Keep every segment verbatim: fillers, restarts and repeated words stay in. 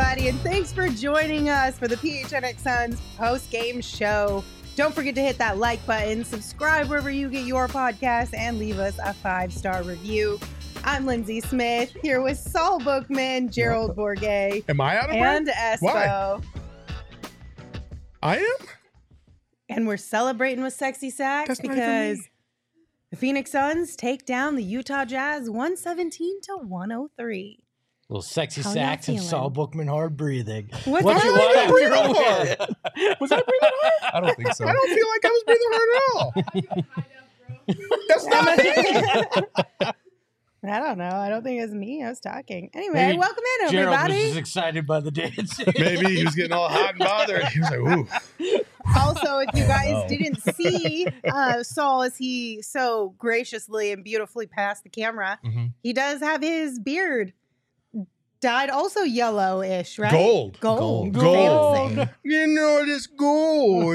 everybody, and thanks for joining us for the P H N X Suns post-game show. Don't forget to hit that like button, subscribe wherever you get your podcast, and leave us a five-star review. I'm Lindsay Smith, here with Saul Bookman, Gerald Bourget, Am I out of and breath? Espo. Why? I am? And we're celebrating with Sexy Sacks That's not because even me. the Phoenix Suns take down the Utah Jazz one seventeen to one oh three. Little Sexy How y'all Sacks and feeling? Saul Bookman hard breathing. What's What that? you I want didn't breathe after a hard. win? Was I breathing hard? I don't think so. I don't feel like I was breathing hard at all. That's not me. I don't know. I don't think it's me. I was talking. Anyway, Maybe welcome in, Gerald was everybody. just excited by the dance. Maybe he was getting all hot and bothered. He was like, ooh. Also, if you guys Uh-oh. didn't see uh, Saul as he so graciously and beautifully passed the camera, Mhm. he does have his beard dyed also yellowish, right? Gold. Gold. Gold. Fancy. Gold. You know this gold.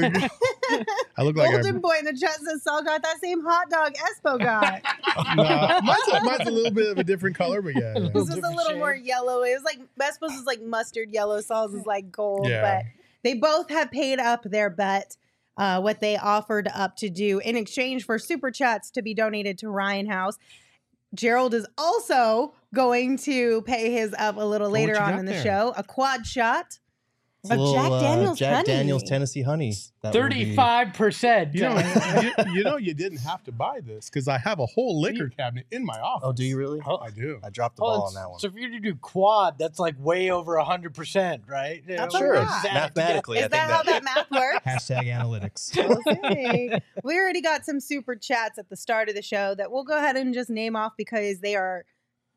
I look like Golden I... boy in the chat says Saul got that same hot dog Espo got. Nah, mine's, a, mine's a little bit of a different color, but yeah. yeah. This was a different little shade. more yellow. It was like Espo's is like mustard yellow, Saul's is like gold. Yeah. But they both have paid up their bet, uh, what they offered up to do in exchange for super chats to be donated to Ryan House. Gerald is also going to pay his up a little Oh, what later you on got in the there? show. A quad shot It's of a little, Jack uh, Daniel's Jack honey. Daniel's Tennessee honey. That will be- Thirty-five percent. You know, you, you know, you didn't have to buy this because I have a whole liquor cabinet in my office. Oh, do you really? I do. I dropped the Oh, ball it's- on that one. So if you do quad, that's like way over a hundred percent, right? You That's know, a Sure, lot. just add it mathematically, Is I that think how that math works? Hashtag analytics. Okay. We already got some super chats at the start of the show that we'll go ahead and just name off because they are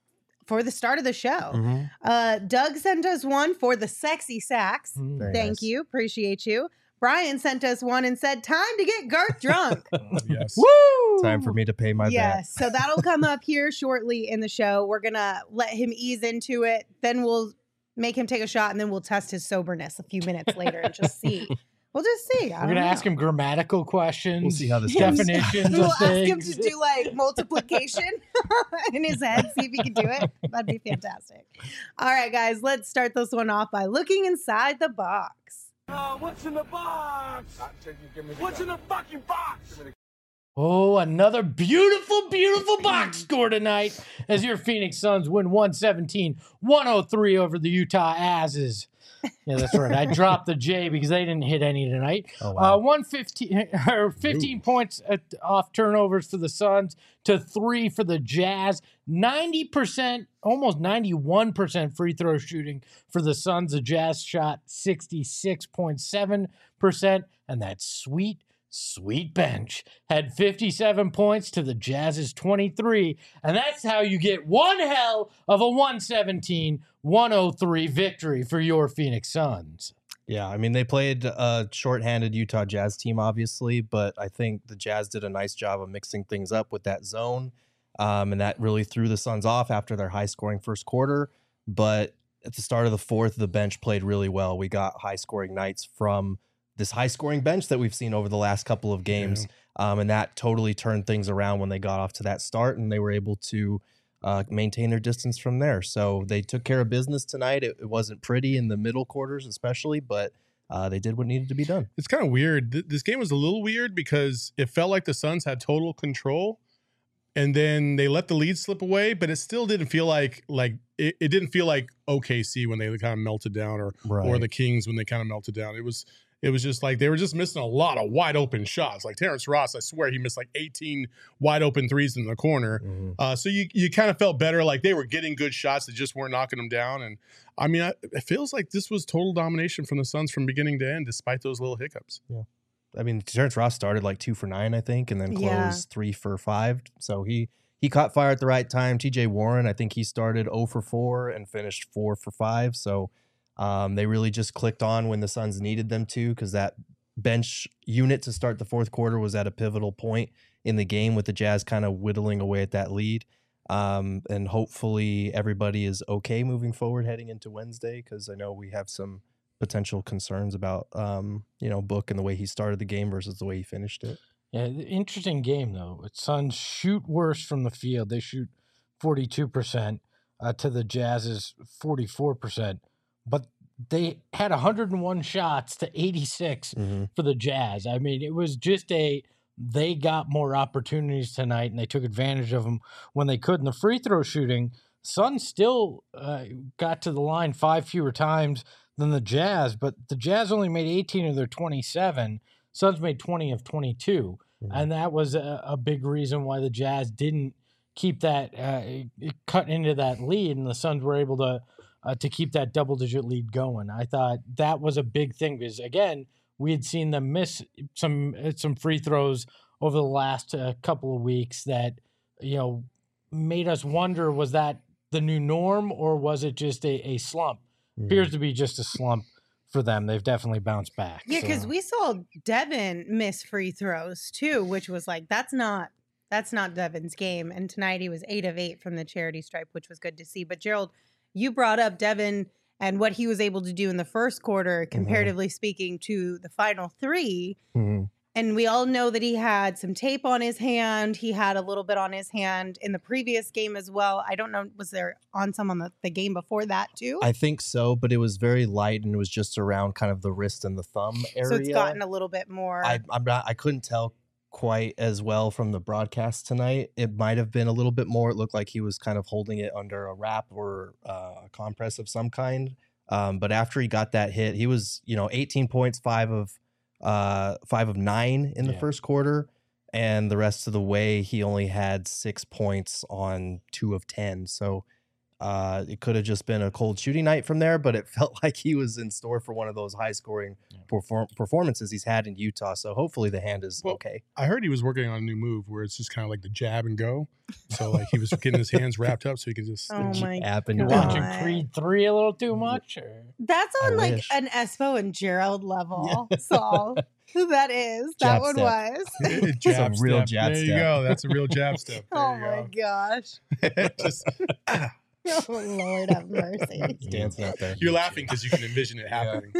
for the start of the show. Mhm. Uh, Doug sent us one for the Sexy Sacks. Mm. Very Thank nice. you. Appreciate you. Brian sent us one and said, time to get Garth drunk. Yes. Woo! Time for me to pay my bet. Yes. So that'll come up here shortly in the show. We're going to let him ease into it. Then we'll make him take a shot and then we'll test his soberness a few minutes later and just see. We'll just see. I We're don't gonna know. ask him grammatical questions. We'll see how this Yeah, goes. definitions We'll of ask him things. to do like multiplication in his head, see if he can do it. That'd be fantastic. All right, guys, let's start this one off by looking inside the box. Uh, what's in the box? What's in the fucking box? Oh, another beautiful, beautiful box score tonight as your Phoenix Suns win one seventeen one oh three over the Utah Asses. Yeah, that's right. I dropped the J because they didn't hit any tonight. Oh, wow. Uh, one fifteen or fifteen points at, off turnovers for the Suns to three for the Jazz. ninety percent, almost ninety-one percent free throw shooting for the Suns. The Jazz shot sixty-six point seven percent, and that sweet, sweet bench had fifty-seven points to the Jazz's twenty-three. And that's how you get one hell of a one seventeen one oh three victory for your Phoenix Suns. Yeah, I mean, they played a shorthanded Utah Jazz team, obviously, but I think the Jazz did a nice job of mixing things up with that zone, um, and that really threw the Suns off after their high-scoring first quarter. But at the start of the fourth, the bench played really well. We got high-scoring nights from this high-scoring bench that we've seen over the last couple of games, um, and that totally turned things around when they got off to that start, and they were able to uh, maintain their distance from there. So they took care of business tonight. It, it wasn't pretty in the middle quarters, especially, but uh, they did what needed to be done. It's kind of weird. Th- This game was a little weird because it felt like the Suns had total control, and then they let the lead slip away. But it still didn't feel like like it, it didn't feel like O K C when they kind of melted down, or or Right. the Kings when they kind of melted down. It was it was just like they were just missing a lot of wide open shots. Like Terrence Ross, I swear he missed like eighteen wide open threes in the corner. Mhm. Uh, so you you kind of felt better, like they were getting good shots that just weren't knocking them down. And I mean, I, it feels like this was total domination from the Suns from beginning to end, despite those little hiccups. I mean, Terrence Ross started like two for nine, I think, and then closed Yeah. three for five. So he he caught fire at the right time. T J Warren, I think he started zero for four and finished four for five. So um, they really just clicked on when the Suns needed them to, because that bench unit to start the fourth quarter was at a pivotal point in the game with the Jazz kind of whittling away at that lead. Um, and hopefully everybody is okay moving forward heading into Wednesday, because I know we have some potential concerns about, um, you know, Book and the way he started the game versus the way he finished it. Yeah, the interesting game, though. Suns shoot worse from the field. They shoot forty-two percent uh, to the Jazz's forty-four percent. But they had one hundred one shots to eighty-six Mm-hmm. for the Jazz. I mean, it was just a they got more opportunities tonight, and they took advantage of them when they could. In the free throw shooting, Suns still uh, got to the line five fewer times than the Jazz, but the Jazz only made eighteen of their twenty-seven. Suns made twenty of twenty-two, Mhm. and that was a, a big reason why the Jazz didn't keep that uh, cut into that lead, and the Suns were able to uh, to keep that double digit lead going. I thought that was a big thing because again, we had seen them miss some some free throws over the last uh, couple of weeks that you know made us wonder, was that the new norm or was it just a, a slump? Mhm. Appears to be just a slump for them. They've definitely bounced back. Yeah, because so. we saw Devin miss free throws too, which was like that's not that's not Devin's game. And tonight he was eight of eight from the charity stripe, which was good to see. But Gerald, you brought up Devin and what he was able to do in the first quarter, comparatively speaking, to the final three. Mm-hmm. And we all know that he had some tape on his hand. He had a little bit on his hand in the previous game as well. I don't know, was there on some on the, the game before that too? I think so, but it was very light and it was just around kind of the wrist and the thumb area. So it's gotten a little bit more. I, I'm not. I couldn't tell quite as well from the broadcast tonight. It might have been a little bit more. It looked like he was kind of holding it under a wrap or uh, a compress of some kind. Um, but after he got that hit, he was, you know, eighteen points, five of uh, five of nine in the Yeah. first quarter, and the rest of the way he only had six points on two of ten. So. Uh, it could have just been a cold shooting night from there, but it felt like he was in store for one of those high scoring Yeah. perform- performances he's had in Utah. So hopefully the hand is Well, okay. I heard he was working on a new move where it's just kind of like the jab and go. So like he was getting his hands wrapped up so he could just. Oh my App and You're God. watching Creed three a little too much? Or? That's I on like wish. an Espo and Gerald level. So that is. That Jab one step. was. jab a real step. jab there step. you go. That's a real jab step. There Oh you my go. gosh. Just, ah, Oh Lord have mercy. He's dancing out there. you're laughing because you can envision it happening.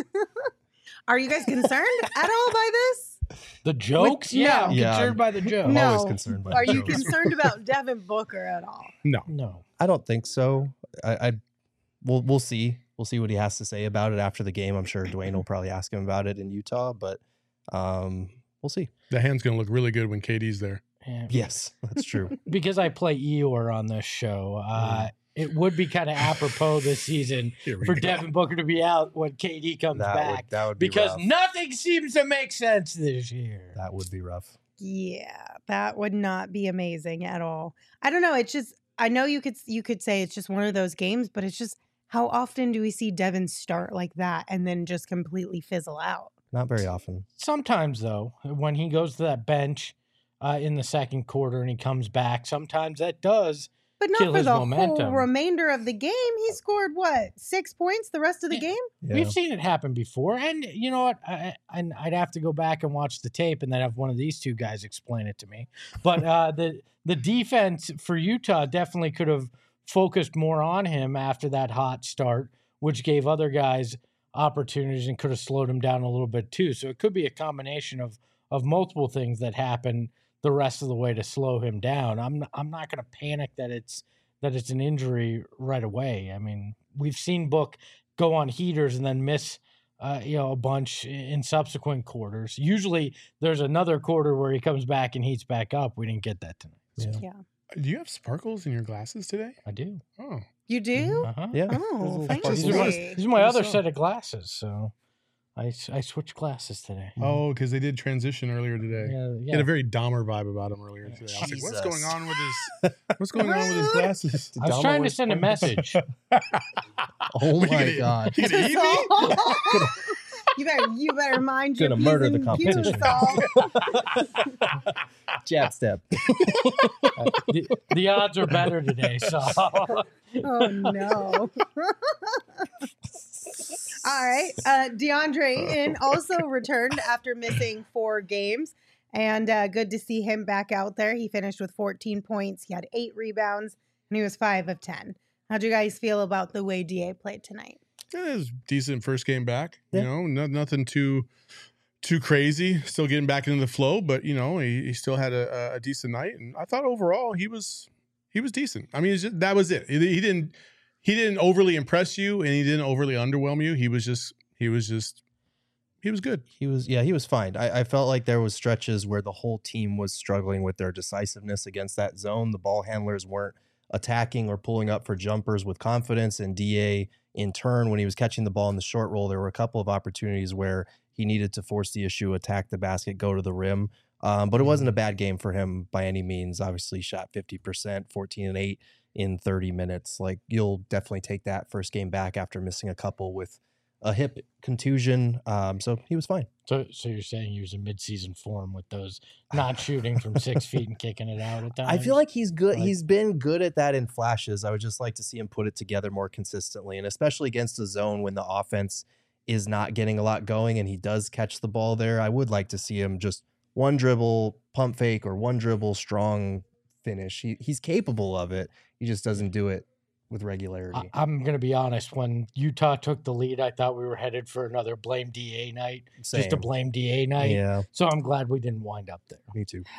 Are you guys concerned at all by this? The jokes? no. Yeah, I'm Yeah. concerned by the jokes. I'm No. always concerned by Are the you jokes. concerned about Devin Booker at all? No. No. I don't think so. I, I we'll we'll see. We'll see what he has to say about it after the game. I'm sure Dwayne will probably ask him about it in Utah, but um, we'll see. The hand's going to look really good when K D's there. Yeah. Yes, that's true. Because I play Eeyore on this show, uh, it would be kind of apropos this season Here we for go. Devin Booker to be out when K D comes that back. would that would be Because rough. nothing seems to make sense this year. that would be rough. Yeah, that would not be amazing at all. I don't know. It's just I know you could you could say it's just one of those games, but it's just how often do we see Devin start like that and then just completely fizzle out? Not very often. Sometimes, though, when he goes to that bench uh, in the second quarter and he comes back, sometimes that does. But not Kill for his the whole momentum. remainder of the game. He scored what six points the rest of the Yeah. game. Yeah. We've seen it happen before. And you know what? I, I, I'd have to go back and watch the tape and then have one of these two guys explain it to me. But uh, the, the defense for Utah definitely could have focused more on him after that hot start, which gave other guys opportunities and could have slowed him down a little bit too. So it could be a combination of of multiple things that happen the rest of the way to slow him down. I'm I'm not going to panic that it's that it's an injury right away. I mean, we've seen Book go on heaters and then miss uh, you know a bunch in subsequent quarters. Usually there's another quarter where he comes back and heats back up. We didn't get that tonight. So Yeah. Do you have sparkles in your glasses today? I do. Oh. You do? Uh-huh. Yeah. There's a Oh, little thank sparkles. These are my, you. these are my What other is set of glasses. So I, I switched glasses today. Oh, because they did transition earlier today. Yeah, He yeah. had a very Dahmer vibe about him earlier today. I was like, what's Jesus. going on with his what's going on with his glasses? I was trying to send a message. Oh What, you my gonna- god. You gonna eat me? you better you better mind your Gonna P's murder the and competition. Q's, Saul. Jab step. the, the odds are better today, so Oh no. All right. Uh, DeAndre in also returned after missing four games. And uh, good to see him back out there. He finished with fourteen points. He had eight rebounds, and he was five of ten. How'd you guys feel about the way D A played tonight? Yeah, it was decent first game back. Yeah. You know, no, nothing too too crazy. Still getting back into the flow, but you know, he, he still had a, a decent night. And I thought overall he was he was decent. I mean, it's just, that was it. He, he didn't he didn't overly impress you and he didn't overly underwhelm you. He was just he was just he was good. He was, yeah, he was fine. I, I felt like there was stretches where the whole team was struggling with their decisiveness against that zone. The ball handlers weren't attacking or pulling up for jumpers with confidence. And D A, in turn, when he was catching the ball in the short roll, there were a couple of opportunities where he needed to force the issue, attack the basket, go to the rim. Um, but it wasn't a bad game for him by any means. Obviously, shot fifty percent, fourteen and eight in thirty minutes. Like, you'll definitely take that first game back after missing a couple with a hip contusion. Um, so he was fine. So, so you're saying he was in mid-season form with those not shooting from six feet and kicking it out at times? I feel like he's good. Like- he's been good at that in flashes. I would just like to see him put it together more consistently, and especially against the zone when the offense is not getting a lot going and he does catch the ball there. I would like to see him just one dribble, pump fake, or one dribble, strong finish. He, he's capable of it. He just doesn't do it with regularity. I, I'm going to be honest. When Utah took the lead, I thought we were headed for another blame D A night. Same. Just a blame D A night. Yeah, So I'm glad we didn't wind up there. me too.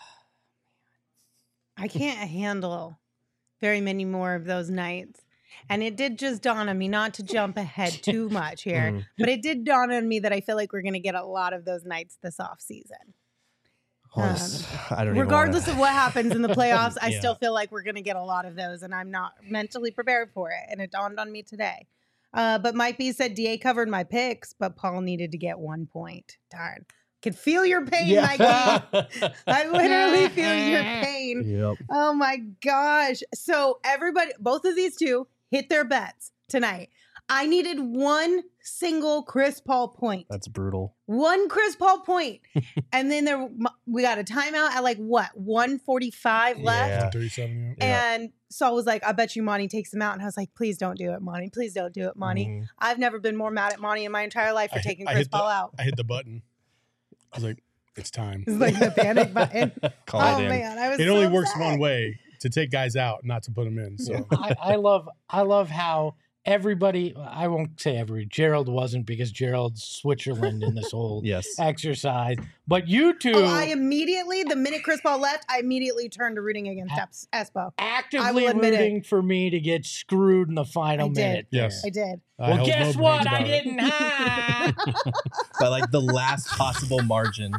I can't handle very many more of those nights. And it did just dawn on me, not to jump ahead too much here, Mhm. but it did dawn on me that I feel like we're going to get a lot of those nights this off season. Honest- I don't even Regardless wanna, of what happens in the playoffs, I Yeah. still feel like we're going to get a lot of those, and I'm not mentally prepared for it. And it dawned on me today. Uh, but Mike B said D A covered my picks, but Paul needed to get one point. Darn. Could feel your pain, Mike B. I literally feel your pain. Yep. Oh my gosh. So everybody, both of these two hit their bets tonight. I needed one single Chris Paul point. That's brutal. One Chris Paul point. And then there we got a timeout at like what, one forty-five left? Yeah. thirty-seven, yeah. Yeah. And Saul was like, I bet you Monty takes him out. And I was like, please don't do it, Monty. Please don't do it, Monty. Mhm. I've never been more mad at Monty in my entire life for I hit- taking I Chris hit the- Paul out. I hit the button. I was like, it's time. It's like the panic button. Call Oh it in. man, I was It only so works upset. one way, to take guys out, not to put them in. So I, I love I love how everybody, I won't say every, Gerald wasn't because Gerald's Switzerland in this whole Yes. exercise. But you two Oh, I immediately, the minute Chris Paul left, I immediately turned to rooting against Es- Espo. actively admit it. rooting for me to get screwed in the final I did. minute. Yes. I did. I Well, held guess no what? brains I about it. didn't. Ha! By like the last possible margin.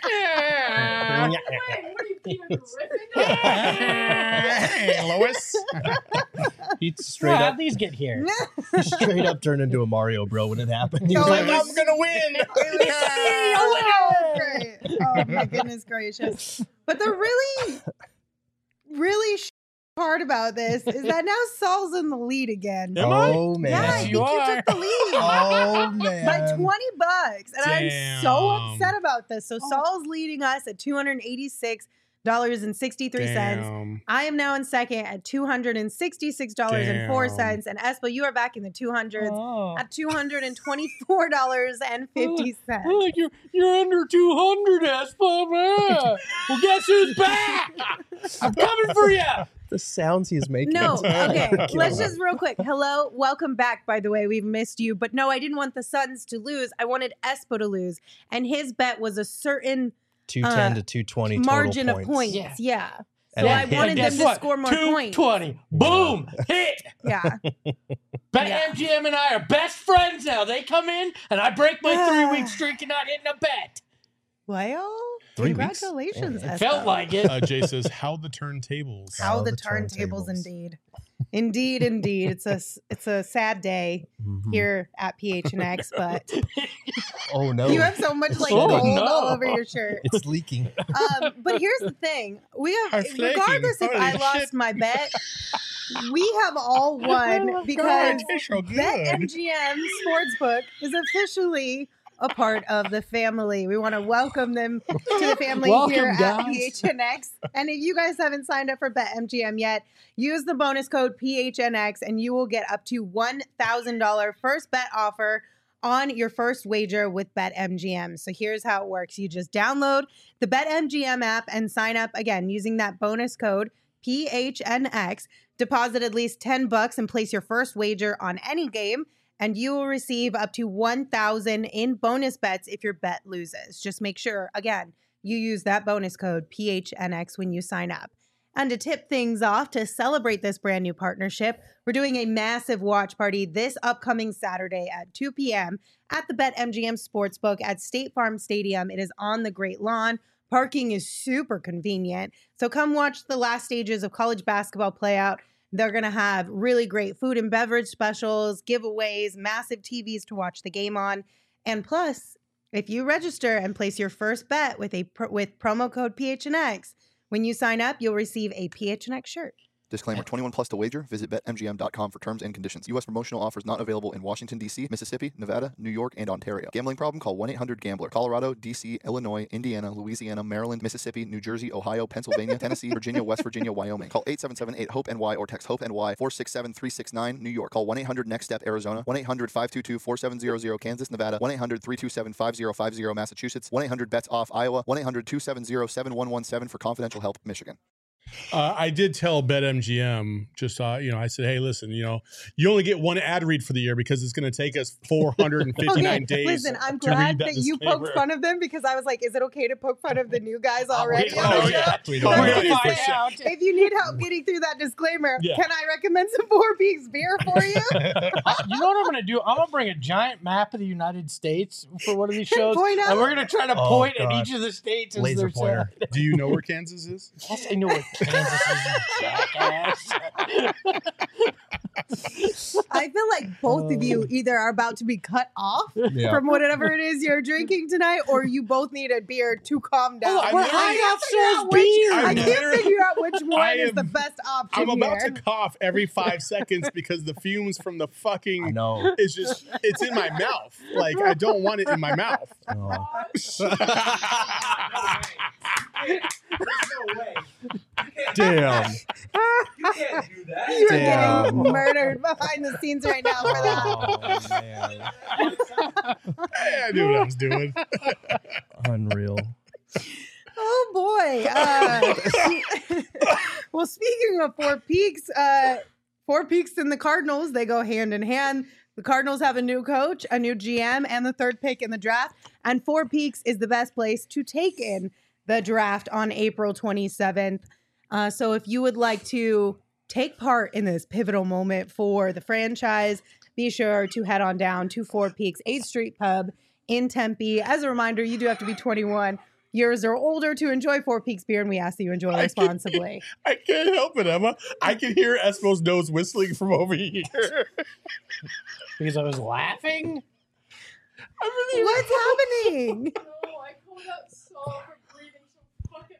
Hey, Lois. He Straight straight up, these get here. he straight up turned into a Mario bro when it happened. He No, was like, it was- I'm gonna win. It was so great. Oh my goodness gracious. But the really, really sh- part about this is that now Saul's in the lead again. Am I? Oh man. Yeah, I Yes, think you you are. took the lead. Oh man. By twenty bucks. And I'm so Damn. upset about this. So Saul's leading us at two hundred eighty-six dollars and sixty-three cents. Damn. I am now in second at two hundred sixty-six dollars and four cents. And Espo, you are back in the two hundreds Oh. at two hundred twenty-four dollars and fifty cents. Oh, you're you're under two hundred, Espo. Man. Well, guess who's back? I'm coming for you. The sounds he's making. No, is okay. killing Let's me. just real quick. Hello, welcome back. By the way, we've missed you, but no, I didn't want the Suns to lose. I wanted Espo to lose, and his bet was a certain two ten uh, to two twenty margin total of points. points. Yeah. Yeah. And So it I hit. wanted And them guess to what? score more two points. twenty. Boom. Hit. Yeah. Bet Yeah. M G M and I are best friends now. They come in and I break my three week streak and not hitting a bet. Well, Three weeks? congratulations, Yeah. It Espo. felt like it. Uh, Jay says, how the turntables. How How the the turntables, turntables. indeed. Indeed, indeed. It's a it's a sad day Mhm. here at P H N X, but Oh no. you have so much like Oh, gold no. all over your shirt. It's leaking. Um, but here's the thing: we have, I'm flaking. regardless if Holy I lost shit. my bet, we have all won because God, it tastes so good. BetMGM Sportsbook is officially a part of the family. We want to welcome them to the family Welcome, here at guys. P H N X. And if you guys haven't signed up for BetMGM yet, use the bonus code P H N X and you will get up to one thousand dollars first bet offer on your first wager with BetMGM. So here's how it works. You just download the BetMGM app and sign up again using that bonus code P H N X. Deposit at least ten bucks and place your first wager on any game, and you will receive up to one thousand in bonus bets if your bet loses. Just make sure, again, you use that bonus code P H N X when you sign up. And to tip things off, to celebrate this brand new partnership, we're doing a massive watch party this upcoming Saturday at two p.m. at the BetMGM Sportsbook at State Farm Stadium. It is on the Great Lawn. Parking is super convenient. So come watch the last stages of college basketball play out. They're going to have really great food and beverage specials, giveaways, massive T Vs to watch the game on. And plus, if you register and place your first bet with a with promo code P H N X, when you sign up, you'll receive a P H N X shirt. Disclaimer, twenty-one plus to wager. Visit bet M G M dot com for terms and conditions. U S promotional offers not available in Washington, D C, Mississippi, Nevada, New York, and Ontario. Gambling problem? Call one eight hundred gambler. Colorado, D C, Illinois, Indiana, Louisiana, Maryland, Mississippi, New Jersey, Ohio, Pennsylvania, Tennessee, Virginia, West Virginia, Wyoming. Call eight seven seven eight hope N Y or text HOPE N Y four six seven three six nine. New York. Call one eight hundred next step Arizona. one eight hundred five two two four seven zero zero Kansas, Nevada. one eight hundred three two seven five zero five zero Massachusetts. one eight hundred bets off Iowa. one eight hundred two seven zero seven one one seven for confidential help, Michigan. Uh, I did tell BetMGM, just uh, you know, I said, hey, listen, you know, you only get one ad read for the year because it's going to take us four hundred fifty-nine Okay, days. listen, I'm to read glad that that you disclaimer. poked fun of them because I was like, is it okay to poke fun of the new guys already? Oh, on the Oh show? yeah, We're Oh, gonna yeah, for find sure. out. If you need help getting through that disclaimer, Yeah. can I recommend some Four Peaks beer for you? Uh, you know what I'm going to do? I'm going to bring a giant map of the United States for one of these shows, Point out. and we're going to try to Oh, point at God. each of the states as Laser they're pointer. said. Do you know where Kansas is? Yes, I know what Kansas is, you jackass. I feel like both of you either are about to be cut off Yeah. from whatever it is you're drinking tonight, or you both need a beer to calm down. Oh, I'm we're literally- high off figure out Soul's which- beer. I I'm can't literally- figure out which one I is the am- best option I'm about here. to cough every five seconds because the fumes from the I fucking know. it's just it's in my mouth. Like I don't want it in my mouth. Oh. No way. Damn. You can't do that. You're Damn. getting murdered behind the scenes right now for that. Oh, man. Hey, I knew what I was doing. Unreal. Oh boy. Uh, well, speaking of Four Peaks, uh, Four Peaks and the Cardinals, they go hand in hand. The Cardinals have a new coach, a new G M, and the third pick in the draft. And Four Peaks is the best place to take in the draft on April twenty-seventh. Uh, so if you would like to take part in this pivotal moment for the franchise, be sure to head on down to Four Peaks eighth Street Pub in Tempe. As a reminder, you do have to be twenty-one years or older to enjoy Four Peaks beer, and we ask that you enjoy I can- responsibly. I can't help it, Emma. I can hear Espo's nose whistling from over here. Because I was laughing? What's happening? No, I called out Saul for breathing so fucking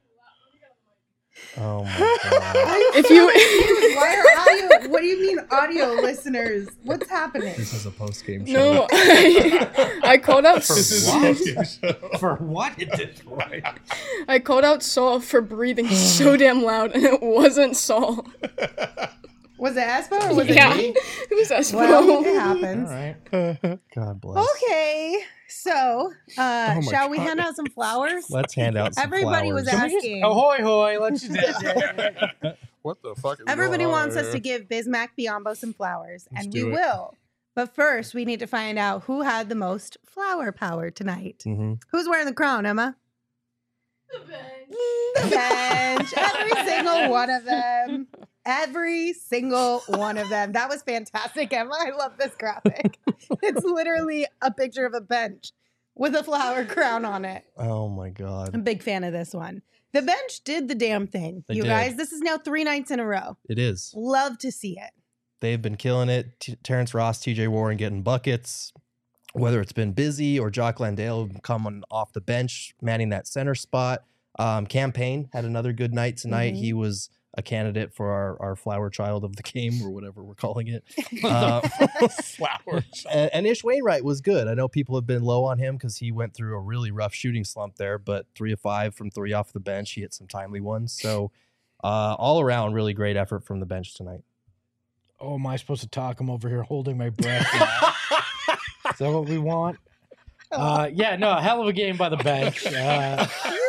loud. Oh my god. If you- Why are audio? What do you mean, audio listeners? What's happening? This is a post game show. No, I, I called out. This is What? a fucking show. For what at this point? I called out Saul for breathing so damn loud, and it wasn't Saul. Was it Espo or was yeah, it me? it was Espo. Well, it All happens. right. God bless. Okay, so uh, Oh my shall we God. hand out some flowers? Let's hand out some Everybody was flowers. at- Can we just, Asking. ahoy, hoy. Let's just. What the fuck? Is Everybody going on wants us here? to give Bismack Biombo some flowers, Let's and we do it. will. But first, we need to find out who had the most flower power tonight. hmm Who's wearing the crown, Emma? The bench. The bench. Every single one of them. Every single one of them. That was fantastic, Emma. I love this graphic. It's literally a picture of a bench with a flower crown on it. Oh my I'm a god. big fan of this one. The bench did the damn thing. They you did. guys, this is now three nights in a row. It is. Love to see it. They've been killing it. T- Terrence Ross, T J Warren getting buckets. Whether it's been busy or Jock Landale coming off the bench, manning that center spot. Um, Campaign had another good night tonight. Mhm. He was a candidate for our, our flower child of the game or whatever we're calling it. Uh, Flowers. and, and Ish Wainwright was good. I know people have been low on him because he went through a really rough shooting slump there, but three of five from three off the bench. He hit some timely ones. So uh, all around, really great effort from the bench tonight. Oh, am I supposed to talk? I'm over here holding my breath. Is that what we want? Uh, yeah, no, a hell of a game by the bench. Uh,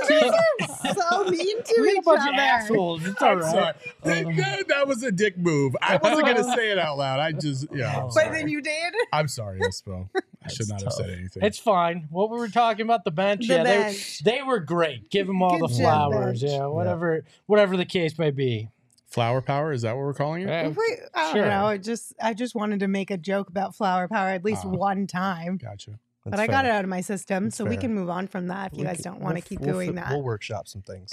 So mean to we're a each bunch of other. assholes. It's all I'm sorry. right. That, Um, that- that was a dick move. I wasn't gonna say it out loud. I just yeah. I'm But sorry. then you did? I'm sorry, Espo. should not have said anything. It's fine. What we were talking about the bench, The yeah, bench. They, they were great. Give them all Good the job, flowers, bench. yeah, whatever, whatever the case may be. Flower power, is that what we're calling it? Uh, Wait, I don't sure. know. I just I just wanted to make a joke about flower power at least Oh. one time. Gotcha. But I got it out of my system, That's so we fair. can move on from that if you We guys c- don't want to we'll- keep we'll doing fi- that. We'll workshop some things.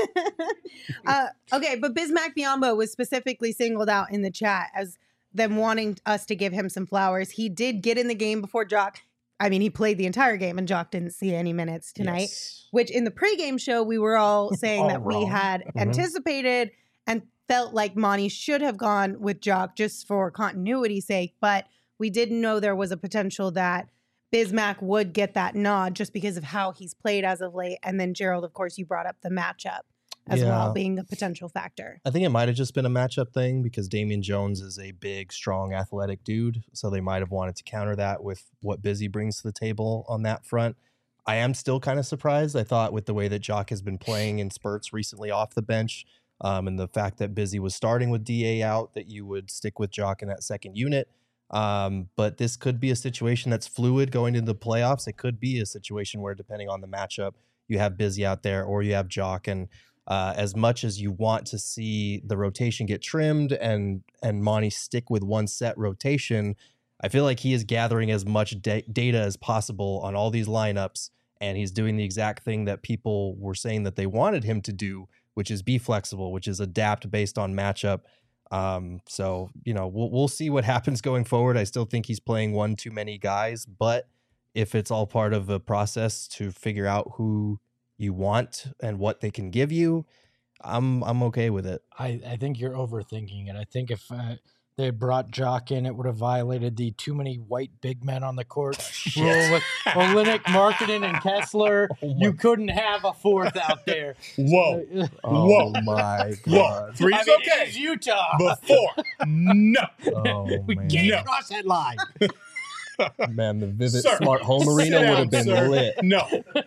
uh, okay, but Bismack Biombo was specifically singled out in the chat as them wanting us to give him some flowers. He did get in the game before Jock. I mean, he played the entire game, and Jock didn't see any minutes tonight. Yes. Which in the pregame show, we were all saying All that we wrong. had Mhm. anticipated and felt like Monty should have gone with Jock just for continuity's sake. But we didn't know there was a potential that Bismack would get that nod just because of how he's played as of late. And then Gerald, of course, you brought up the matchup as well Yeah. being a potential factor. I think it might have just been a matchup thing because Damian Jones is a big, strong, athletic dude. So they might have wanted to counter that with what Busy brings to the table on that front. I am still kind of surprised. I thought with the way that Jock has been playing in spurts recently off the bench, um, and the fact that Busy was starting with D A out, that you would stick with Jock in that second unit. Um, but this could be a situation that's fluid going into the playoffs. It could be a situation where, depending on the matchup, you have Busy out there or you have Jock. And uh, as much as you want to see the rotation get trimmed and and Monty stick with one set rotation, I feel like he is gathering as much da- data as possible on all these lineups, and he's doing the exact thing that people were saying that they wanted him to do, which is be flexible, which is adapt based on matchup. Um, so, you know, we'll, we'll see what happens going forward. I still think he's playing one too many guys, but if it's all part of a process to figure out who you want and what they can give you, I'm I'm okay with it. I, I think you're overthinking it. I think if uh, they brought Jock in, it would have violated the too many white big men on the court rule with Olynyk, Markkanen, and Kessler. Oh You couldn't have a fourth out there. Whoa. Uh, Whoa. my Whoa. Three's I mean, okay. It is Utah. Before. No. Oh, we man. can't No. cross that line. Man, the Vivid Sir, Smart Home sit Arena would down, have been sir. lit. No.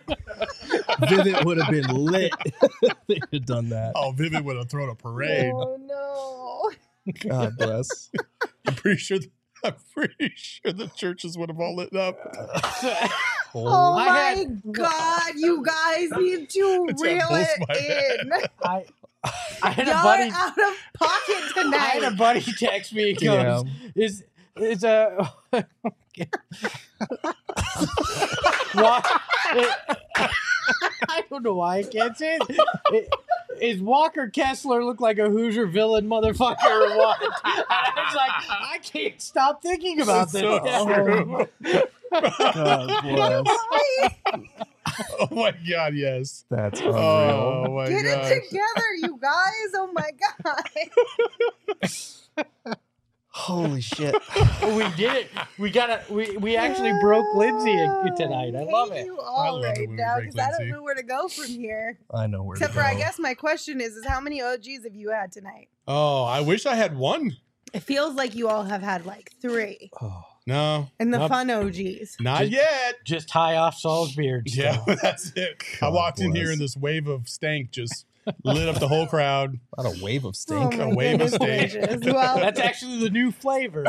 Vivid would have been lit. They could have done that. Oh, Vivid would have thrown a parade. Oh no. God bless. I'm pretty sure. I'm pretty sure the churches would have all lit up. Oh I my had- God, you guys need to It's reel got both it my in. I, I had a Y'all buddy. are out of pocket I had a tonight. buddy text me. He goes, "Is is a why?" I don't know why I can't say it. it. Is Walker Kessler look like a Hoosier villain motherfucker or what? And I was like, I can't stop thinking about That's this. so true. God bless. Oh my God, yes. That's unreal. Oh my Get God. it together, you guys. Oh my God. Holy shit. We did it. We got it. We we actually broke Lindsay tonight. I love hate it. you all love it right when we now break because I don't Lindsay. know where to go from here. I know where Except to for, I go. guess my question is, is how many O Gs have you had tonight? Oh, I wish I had one. It feels like you all have had like three. Oh, No, And the Nope. fun O Gs. not Just- yet. Just high off Saul's beard. Yeah, still. that's it. I God walked in here bless. and this wave of stank just lit up the whole crowd. not a wave of Oh stink. a my wave of goodness steak. gracious. Well, That's actually the new flavor.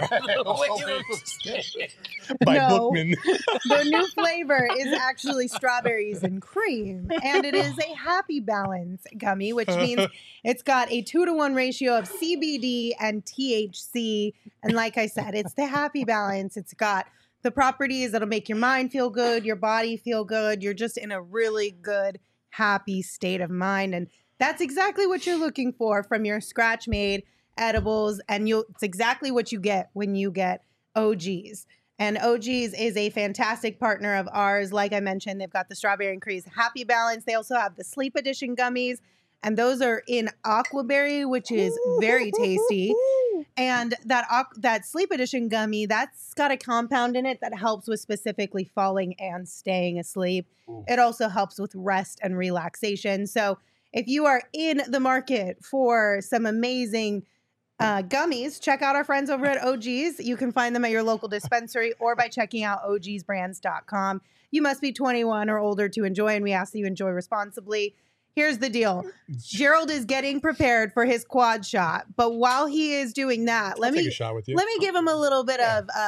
By No. Bookman. the new flavor is actually strawberries and cream, and it is a Happy Balance gummy, which means it's got a two to one ratio of C B D and T H C. And like I said, it's the Happy Balance. It's got the properties that'll make your mind feel good, your body feel good. You're just in a really good, happy state of mind, and that's exactly what you're looking for from your scratch made edibles, and you'll it's exactly what you get when you get O Gs. And O Gs is a fantastic partner of ours. Like I mentioned, they've got the Strawberry and Crease Happy Balance. They also have the Sleep Edition gummies, and those are in aquaberry, which is very tasty. And that aqu- that Sleep Edition gummy, that's got a compound in it that helps with specifically falling and staying asleep. It also helps with rest and relaxation. So if you are in the market for some amazing uh, gummies, check out our friends over at O Gs. You can find them at your local dispensary or by checking out O Gs brands dot com. You must be twenty-one or older to enjoy, and we ask that you enjoy responsibly. Here's the deal. Gerald is getting prepared for his quad shot, but while he is doing that, let I'll me take a shot with you. let me give him a little bit of uh,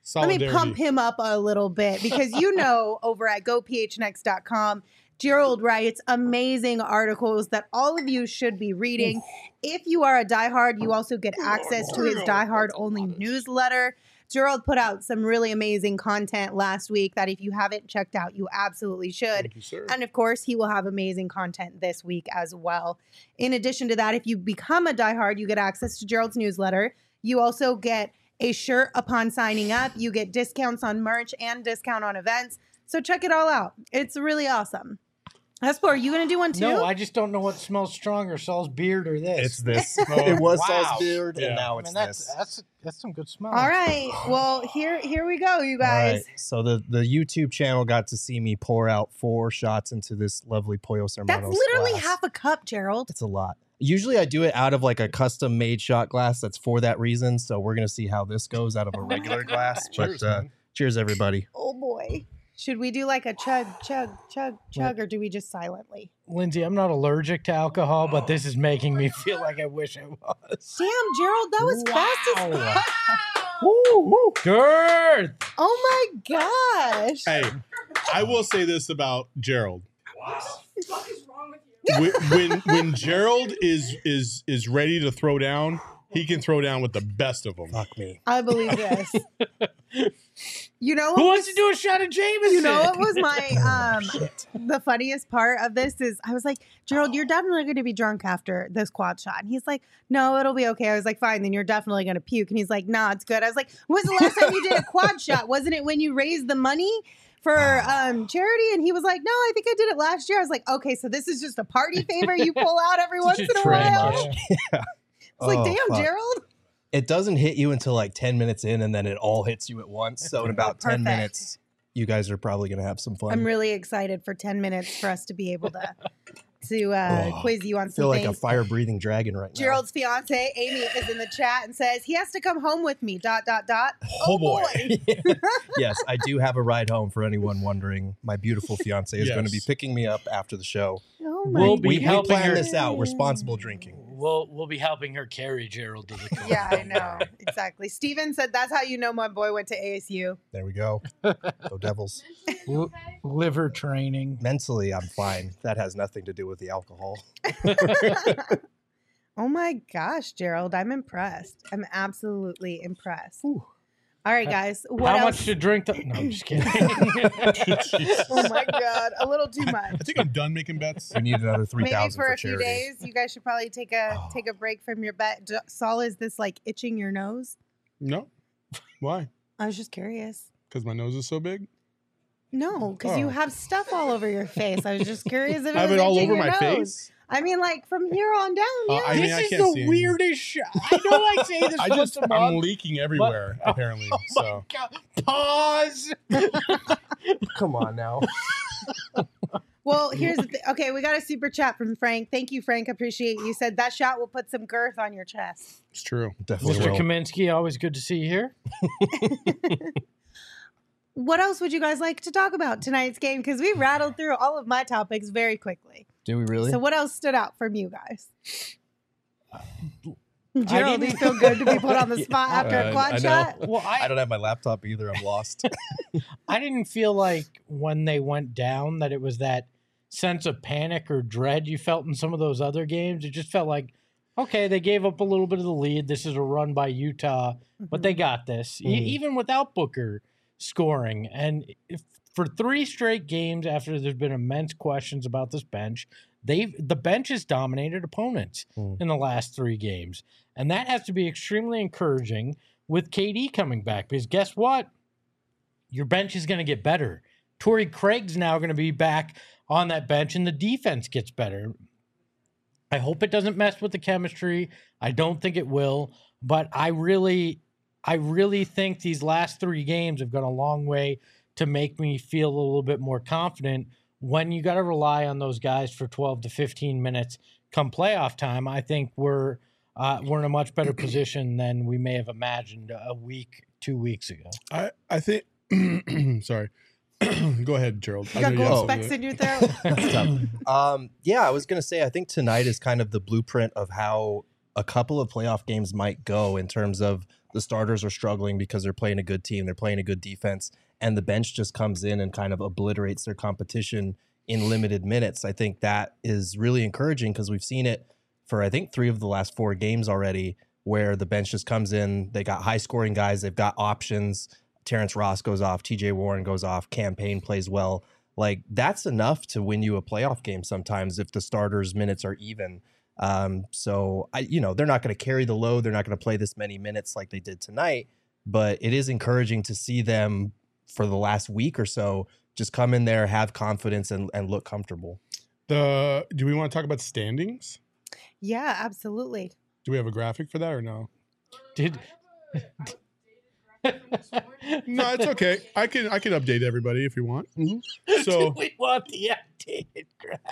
let me Solidarity. pump him up a little bit because you know over at go p h n x dot com, Gerald writes amazing articles that all of you should be reading. If you are a diehard, you also get access to his diehard only newsletter. Gerald put out some really amazing content last week that if you haven't checked out, you absolutely should. Thank you, sir. And of course, he will have amazing content this week as well. In addition to that, if you become a diehard, you get access to Gerald's newsletter. You also get a shirt upon signing up. You get discounts on merch and discount on events. So check it all out. It's really awesome. Espo, are you going to do one too? No, I just don't know what smells stronger, Saul's beard or this. It's this. Oh, it was wow. Saul's beard, Yeah. and now I it's mean, that's, this. that's that's some good smell. All right. Well, here here we go, you All guys. right. So the, the YouTube channel got to see me pour out four shots into this lovely Pollo Hermanos That's literally glass. half a cup, Gerald. It's a lot. Usually I do it out of like a custom made shot glass that's for that reason. So we're going to see how this goes out of a regular glass. Cheers, but uh, man. cheers, everybody. Oh boy. Should we do like a chug, chug, chug, chug, or do we just silently? Lindsay, I'm not allergic to alcohol, but this is making me feel like I wish I was. Damn, Gerald, that was fast as Wow. fuck. Woo, woo. Girth. Oh my gosh. Hey, I will say this about Gerald. What the fuck is wrong with you? When, when when Gerald is is is ready to throw down, he can throw down with the best of them. Fuck me. I believe this. You know what Who was, wants to do a shot of Jameson? you know what was my um the funniest part of this is I was like, Gerald, you're definitely going to be drunk after this quad shot. And he's like, no, it'll be okay. I was like, fine, then you're definitely going to puke. And he's like, nah, it's good. I was like, when's the last time you did a quad shot? Wasn't it when you raised the money for um charity? And he was like, no, I think I did it last year. I was like, okay, so this is just a party favor you pull out every once in Such a a trend, while. yeah. It's like, Oh, damn, fuck. Gerald. It doesn't hit you until like ten minutes in, and then it all hits you at once. So in about ten Perfect. minutes, you guys are probably going to have some fun. I'm really excited for ten minutes for us to be able to to uh, Oh, quiz you on I feel some like a things. fire-breathing dragon right now. Gerald's fiance Amy is in the chat and says he has to come home with me. Dot dot dot. Oh, boy. Yes, I do have a ride home for anyone wondering. My beautiful fiance is going to be Yes. picking me up after the show. Oh my We'll be We, we helping planned her. this out. Responsible drinking. We'll we'll be helping her carry Gerald to the car. Yeah, I know exactly. Steven said that's how you know my boy went to A S U. There we go. Go Devils. L- liver training. Mentally, I'm fine. That has nothing to do with the alcohol. Oh my gosh, Gerald, I'm impressed. I'm absolutely impressed. All right, guys. What How else? much to drink? The- no, I'm just kidding. Oh my god, a little too much. I think I'm done making bets. We need another three Maybe thousand for for, a few charity. days, you guys should probably take a Oh. take a break from your bet. D- Saul, is this like itching your nose? No. Why? I was just curious. Because my nose is so big. No, because you Oh. have stuff all over your face. I was just curious if it I have was it all itching over your my nose. face. I mean, like from here on down. Uh, Yeah. I mean, this I is can't the see anything. weirdest shot. I know I say this I once just a I'm month. leaking everywhere apparently. Oh my So God. Pause. Come on now. Well, here's the thing. Okay, we got a super chat from Frank. Thank you, Frank. Appreciate you. Said that shot will put some girth on your chest. it's true. Definitely Mister will. Kaminsky, always good to see you here. What else would you guys like to talk about tonight's game? Because we rattled through all of my topics very quickly. Do we really? So what else stood out from you guys? I Gerald, do you didn't- feel good to be put on the spot after Uh, a quad I know. shot? Well, I I, don't have my laptop either. I'm lost. I didn't feel like when they went down that it was that sense of panic or dread you felt in some of those other games. It just felt like, okay, they gave up a little bit of the lead. This is a run by Utah, but they got this, e- Mhm. even without Booker scoring. And if, for three straight games after there's been immense questions about this bench, they've the bench has dominated opponents Mm. in the last three games. And that has to be extremely encouraging with K D coming back, because guess what? Your bench is going to get better. Torrey Craig's now going to be back on that bench, and the defense gets better. I hope it doesn't mess with the chemistry. I don't think it will, but I really, I really think these last three games have gone a long way to make me feel a little bit more confident when you got to rely on those guys for twelve to fifteen minutes come playoff time. I think we're uh, we're in a much better position than we may have imagined a week, two weeks ago. I I think. Sorry. Go ahead, Gerald. You I got know you have gold something specks to- in your throat? That's tough. Um, yeah, I was gonna say I think tonight is kind of the blueprint of how a couple of playoff games might go in terms of the starters are struggling because they're playing a good team, they're playing a good defense, and the bench just comes in and kind of obliterates their competition in limited minutes. I think that is really encouraging because we've seen it for, I think, three of the last four games already, where the bench just comes in. They got high scoring guys. They've got options. Terrence Ross goes off. T J Warren goes off. Campaign plays well. Like, that's enough to win you a playoff game sometimes if the starters' minutes are even. Um, so, I, you know, they're not going to carry the load. They're not going to play this many minutes like they did tonight. But it is encouraging to see them for the last week or so just come in there, have confidence, and, and look comfortable. The Do we want to talk about standings? Yeah, absolutely. Do we have a graphic for that or no? Did No, it's okay. I can I can update everybody if you want. Mm-hmm. So Do we want the updated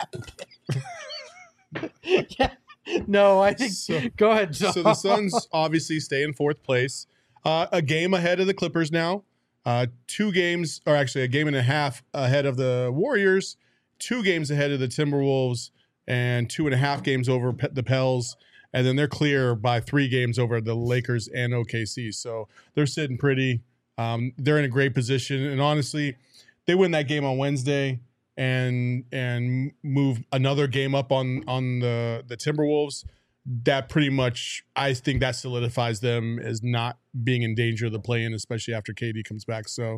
graphic? Yeah. No, I think. So- go ahead. so the Suns obviously stay in fourth place, uh, a game ahead of the Clippers now. Uh, two games, or actually a game and a half ahead of the Warriors. Two games ahead of the Timberwolves, and two and a half games over Pe- the Pels. And then they're clear by three games over the Lakers and O K C. So they're sitting pretty. Um, they're in a great position. And honestly, they win that game on Wednesday and and move another game up on on the, the Timberwolves. That pretty much, I think that solidifies them as not being in danger of the play-in, especially after K D comes back. So,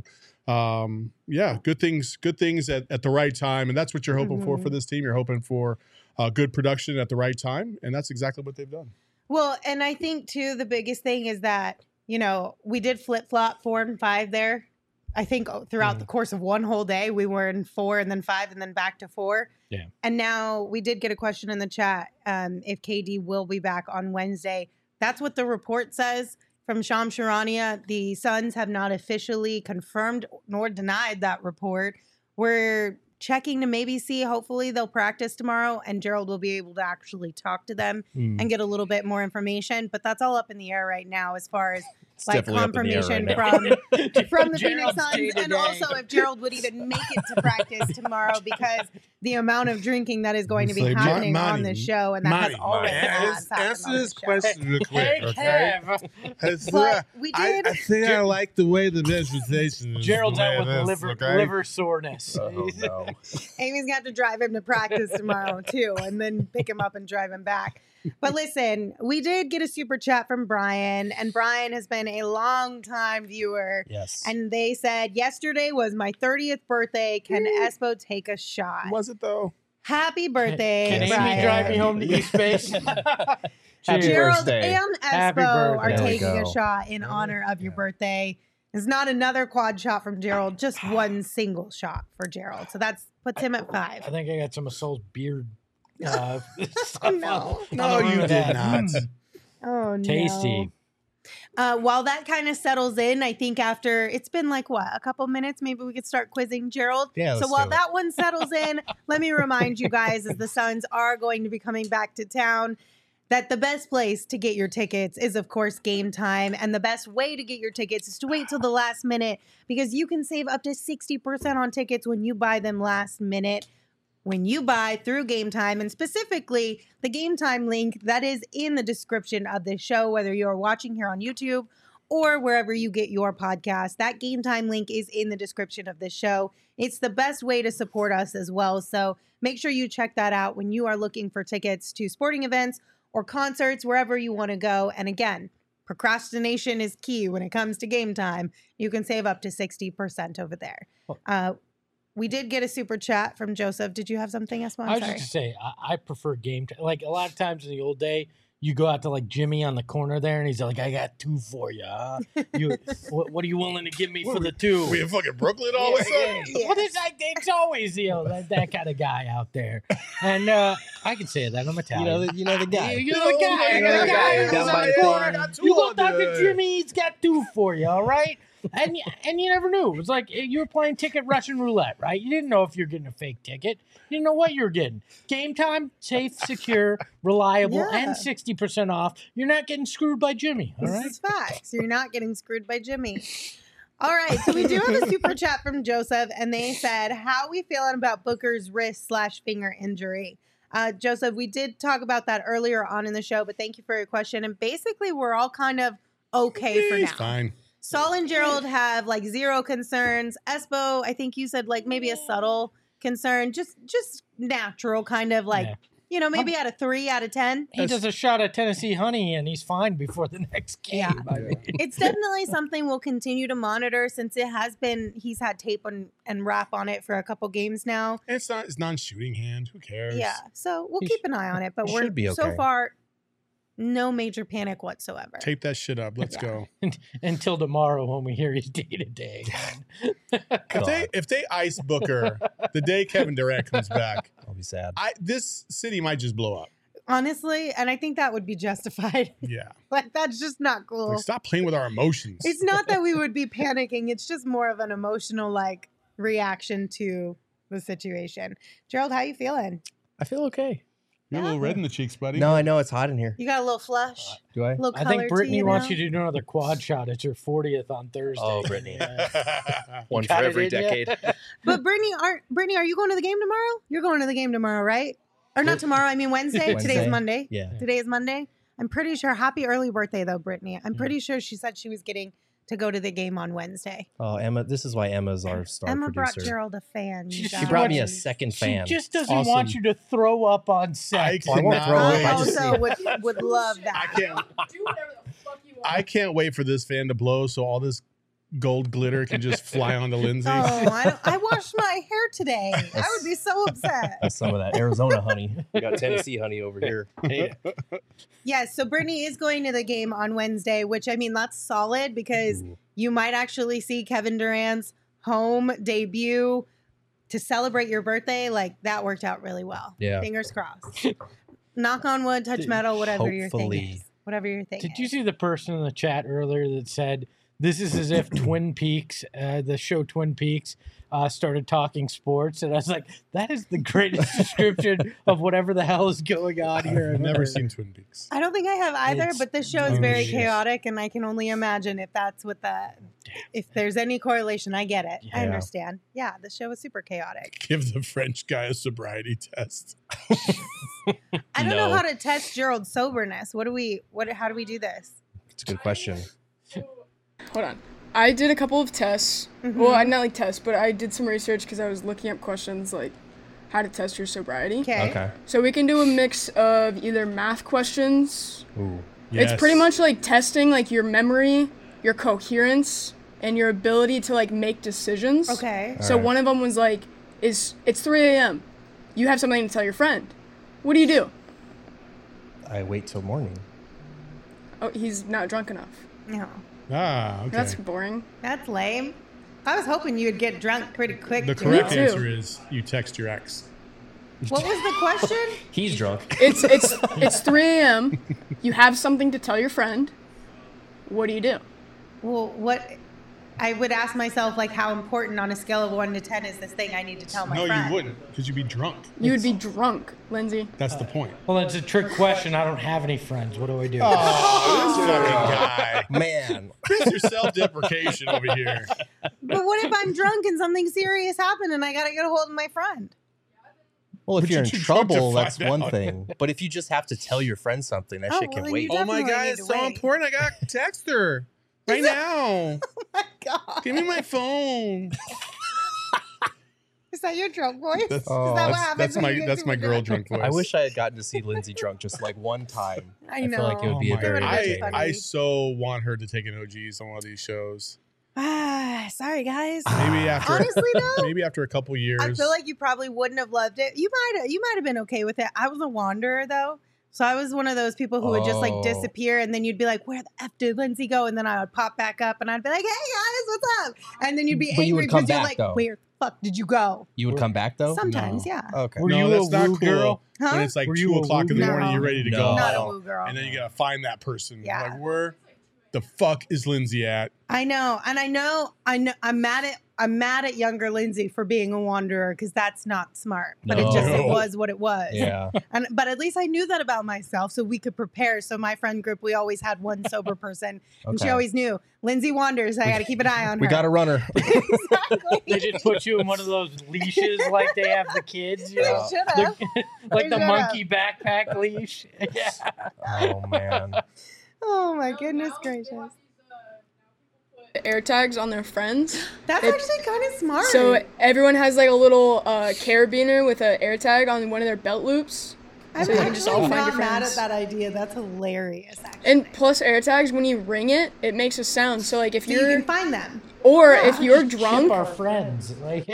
um, yeah, good things, good things at, at the right time. And that's what you're hoping mm-hmm. for for this team. You're hoping for uh, good production at the right time. And that's exactly what they've done. Well, and I think, too, the biggest thing is that, you know, we did flip-flop four and five there. I think throughout mm. the course of one whole day, we were in four and then five and then back to four. Yeah. And now we did get a question in the chat um, if K D will be back on Wednesday. That's what the report says from Shams Charania. The Suns have not officially confirmed nor denied that report. We're checking to maybe see, hopefully they'll practice tomorrow and Gerald will be able to actually talk to them mm. and get a little bit more information. But that's all up in the air right now as far as It's like confirmation right from from the Phoenix Suns, and also if Gerald would even make it to practice tomorrow, because the amount of drinking that is going to be Like, happening Monty, on this show, and that Monty, has already Monty. has happened Answer on this this show. question real quick, okay? It's, But uh, we I, did. I think I like the way the vegetation is. Gerald's the way out with it is, liver okay? liver soreness. Oh, no. Amy's got to drive him to practice tomorrow too, and then pick him up and drive him back. But listen, we did get a super chat from Brian, and Brian has been a long time viewer. Yes. And they said, yesterday was my thirtieth birthday. Can Espo take a shot? Was it though? Happy birthday, Can Brian. Amy drive me home to East Base? Happy Gerald birthday. and Happy Espo are birthday. There we taking a go. shot in honor of your birthday. It's not another quad shot from Gerald, just one single shot for Gerald. So that's puts him at I five. think I got some of Soul's beard. Uh, No. on- No, on the you road did that. not. Mm, Oh, no. tasty. Uh, while that kind of settles in, I think after it's been like what, a couple minutes, maybe we could start quizzing Gerald. Yeah, So let's while do it. that one settles in, let me remind you guys, as the Suns are going to be coming back to town, that the best place to get your tickets is, of course, Game Time. And the best way to get your tickets is to wait till the last minute, because you can save up to sixty percent on tickets when you buy them last minute. When you buy through Game Time, and specifically the Game Time link that is in the description of this show, whether you're watching here on YouTube or wherever you get your podcast, that Game Time link is in the description of this show. It's the best way to support us as well. So make sure you check that out when you are looking for tickets to sporting events or concerts, wherever you want to go. And again, procrastination is key when it comes to Game Time. You can save up to sixty percent over there. Uh, we did get a super chat from Joseph. Did you have something, Espo? I'm I was sorry. just to say, I, I prefer game time. Like a lot of times in the old day, you go out to like Jimmy on the corner there, and he's like, "I got two for you. Huh? You, what, what are you willing to give me for the two?" We in fucking Brooklyn all of a sudden? Yeah. Well, there's like, it's always you know that, that kind of guy out there, and uh, I can say that I'm You Italian. know, the, you know the guy. You know the guy. You You know know the the guy. guy. Down who's by on the the corner, corner. got two You go on talk to there. Jimmy. He's got two for you. All right. And you, and you never knew. It was like you were playing ticket Russian roulette, right? You didn't know if you're getting a fake ticket. You didn't know what you were getting. Game Time, safe, secure, reliable, Yeah. and sixty percent off. You're not getting screwed by Jimmy, all This right? is facts. You're not getting screwed by Jimmy. All right, so we do have a super chat from Joseph, and they said, how are we feeling about Booker's wrist slash finger injury? Uh, Joseph, we did talk about that earlier on in the show, but thank you for your question. And basically, we're all kind of okay for He's now. fine. Saul and Gerald have like zero concerns. Espo, I think you said like maybe a subtle concern, just just natural kind of like, Yeah. you know, maybe at a three out of ten. He does a shot at Tennessee Honey and he's fine before the next game. Yeah. I mean. It's definitely something we'll continue to monitor since it has been, he's had tape and, and wrap on it for a couple games now. And it's not. It's non-shooting hand. Who cares? Yeah. So we'll He keep an eye on it, but he we're should be so okay. far no major panic whatsoever. Tape that shit up. Let's Yeah. go. Until tomorrow when we hear he's day to day. If they if they ice Booker the day Kevin Durant comes back, I'll be sad. I this city might just blow up. Honestly, and I think that would be justified. Yeah. Like that's just not cool. Like, stop playing with our emotions. It's not that we would be panicking. It's just more of an emotional like reaction to the situation. Gerald, how you feeling? I feel okay. You're a little red in the cheeks, buddy. No, I know it's hot in here. You got a little flush, Do I? a little I color think Brittany to you wants now? you to do another quad shot. It's her fortieth on Thursday. Oh, Brittany. Yeah. One for Got it every in ya? decade. But Brittany, aren't Brittany? Are you going to the game tomorrow? You're going to the game tomorrow, right? Or not tomorrow? I mean Wednesday. Today's Wednesday. Monday. Yeah. Today is Monday. I'm pretty sure. Happy early birthday, though, Brittany. I'm Mm. pretty sure she said she was getting to go to the game on Wednesday. Oh, Emma. This is why Emma's our star Emma brought producer. Gerald a fan. you She guys. She brought me a She second She fan. just doesn't Awesome. want you to throw up on I set. Oh, I won't cannot throw up. I I just also see- would would love I that. can't. Do whatever the fuck you want. I can't wait for this fan to blow so all this gold glitter can just fly onto Lindsay. Oh, I, don't, I washed my hair today. I would be so upset. That's some of that Arizona honey. We got Tennessee honey over here. Yes, so Brittany is going to the game on Wednesday, which I mean that's solid because Ooh. you might actually see Kevin Durant's home debut to celebrate your birthday. Like that worked out really well. Yeah. Fingers crossed. Knock on wood, touch metal, whatever your thing Hopefully. is. Whatever your thing Did is. you see the person in the chat earlier that said this is as if Twin Peaks, uh, the show Twin Peaks, uh, started talking sports? And I was like, that is the greatest description of whatever the hell is going on here. I've never ever. seen Twin Peaks. I don't think I have either, It's but this show is very delicious. chaotic, and I can only imagine if that's what the if there's any correlation. I get it. I Yeah. understand. Yeah, the show is super chaotic. Give the French guy a sobriety test. I don't know No. how to test Gerald's soberness. What do we? What? How do we do this? It's a good question. Hold on. I did a couple of tests. Mhm. Well, I not like tests, but I did some research because I was looking up questions like how to test your sobriety. Okay. Okay. So we can do a mix of either math questions. Ooh. It's pretty Yes. much like testing like your memory, your coherence, and your ability to like make decisions. Okay. So Alright. one of them was like, "Is it's three a m You have something to tell your friend. What do you do?" I wait till morning. Oh, he's not drunk enough. No, Ah, okay. That's boring. that's lame. I was hoping you would get drunk pretty quick. the Gerald. correct too. answer is you text your ex. What was the question? He's drunk. It's it's it's three a m You have something to tell your friend. What do you do? Well, what? I would ask myself like, how important on a scale of one to ten is this thing I need to tell my No, friend? you wouldn't, because you'd be drunk. You would be drunk, Lindsay. That's the point. Well, it's a trick question. I don't have any friends. What do I do? Oh, this fucking guy. Man. Chris, your self-deprecation over here. But what if I'm drunk and something serious happened and I gotta get a hold of my friend? Well, if But you're in you're too drunk to trouble, find that's one out. thing. But if you just have to tell your friend something, that Oh, shit well, can then wait. you Oh my Definitely god, need it's to so wait. important. I got to text her right now. My God. Give me my phone. Is that your drunk voice? That's, Is that what that's, happens that's when my you get that's super my girl drunk? drunk voice. I wish I had gotten to see Lindsay drunk just like one time. I I feel like it know. would be Oh a my very God. I, entertaining. funny. I so want her to take an O Gs on one of these shows. Ah, sorry guys. Maybe after Honestly though, maybe after a couple years. I feel like you probably wouldn't have loved it. You might you might have been okay with it. I was a wanderer though. So I was one of those people who would just like Oh. disappear and then you'd be like, where the F did Lindsay go? And then I would pop back up and I'd be like, hey guys, what's up? And then you'd be But you would angry come because you're back, like, though. where the fuck did you go? You would come back though? Sometimes, No. yeah. Okay. Were no, you that's a not woo cool. girl? Huh? When it's like Were you two a o'clock in the woo morning, girl? you're ready to No. go, Not a Oh. woo girl. and then you gotta find that person. Yeah. Like, where the fuck is Lindsay at? I know, and I know, I know, I'm mad at, I'm mad at younger Lindsay for being a wanderer because that's not smart. But it just it No. was what it was. Yeah. And but at least I knew that about myself, so we could prepare. So my friend group, we always had one sober person, and she Okay. always knew Lindsay wanders. I got to keep an eye on We her. got a runner. exactly. They just put you in one of those leashes like they have the kids, you They know? should have. The- like the should've. monkey backpack leash. Yeah. Oh man. Oh my goodness gracious. air tags on their friends. That's It- actually kind of smart. So everyone has like a little uh, carabiner with an air tag on one of their belt loops. I'm so you can actually just all find not your mad at friends. that idea. That's hilarious, actually. And plus air tags, when you ring it, it makes a sound. So like if so you you're, can find them. or if you're Chip drunk, our friends. Like,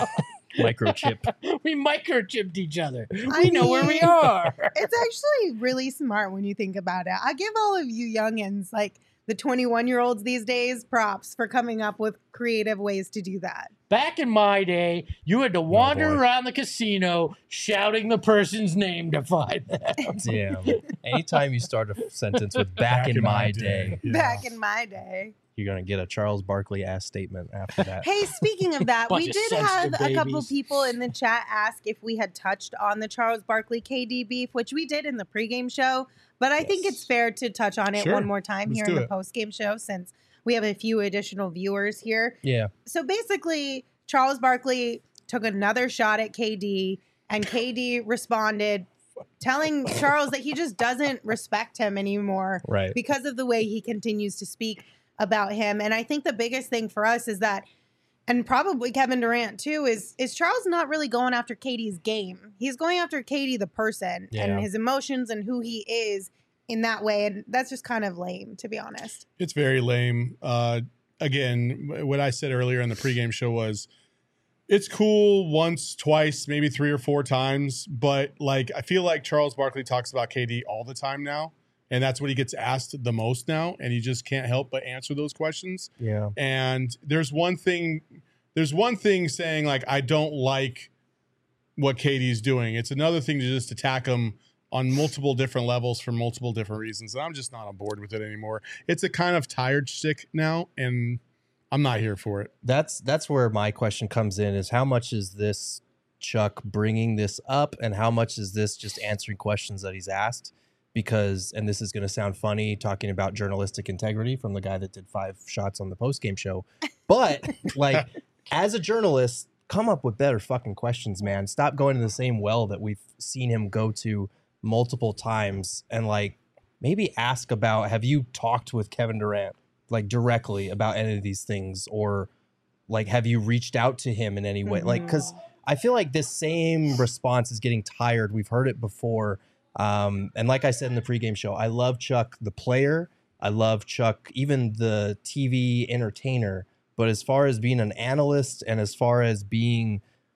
Microchip. we microchipped each other. I We know where we mean- are. It's actually really smart when you think about it. I give all of you youngins, like the twenty-one-year-olds these days, props for coming up with creative ways to do that. Back in my day, you had to wander boy. around the casino shouting the person's name to find them. Damn. Anytime you start a sentence with back, in, my day, Yeah. Back in my day. you're going to get a Charles Barkley ass statement after that. Hey, speaking of that, Bunch we of did have sensitive a couple babies. people in the chat ask if we had touched on the Charles Barkley K D beef, which we did in the pregame show. But I think it's fair to touch on it Sure. one more time Let's here do in the it. postgame show since we have a few additional viewers here. Yeah. So basically, Charles Barkley took another shot at K D, and K D responded, telling Charles that he just doesn't respect him anymore Right. because of the way he continues to speak about him. And I think the biggest thing for us is that, and probably Kevin Durant too, is is Charles not really going after K D's game. He's going after K D the person Yeah. and his emotions and who he is in that way. And that's just kind of lame, to be honest. It's very lame. Uh, again, what I said earlier in the pregame show was it's cool once, twice, maybe three or four times, but like I feel like Charles Barkley talks about K D all the time now, and that's what he gets asked the most now, and he just can't help but answer those questions. Yeah. And there's one thing, there's one thing saying like I don't like what K D's doing. It's another thing to just attack him on multiple different levels for multiple different reasons. And I'm just not on board with it anymore. It's a kind of tired shtick now, and I'm not here for it. That's that's where my question comes in is how much is this Chuck bringing this up and how much is this just answering questions that he's asked? Because, and this is going to sound funny talking about journalistic integrity from the guy that did five shots on the postgame show. But like as a journalist, come up with better fucking questions, man. Stop going to the same well that we've seen him go to multiple times and like maybe ask about, have you talked with Kevin Durant like directly about any of these things, or like have you reached out to him in any way? Mm-hmm. Like, because I feel like this same response is getting tired. We've heard it before. Um, and like I said in the pregame show, I love Chuck the player. I love Chuck, even the T V entertainer. But as far as being an analyst and as far as being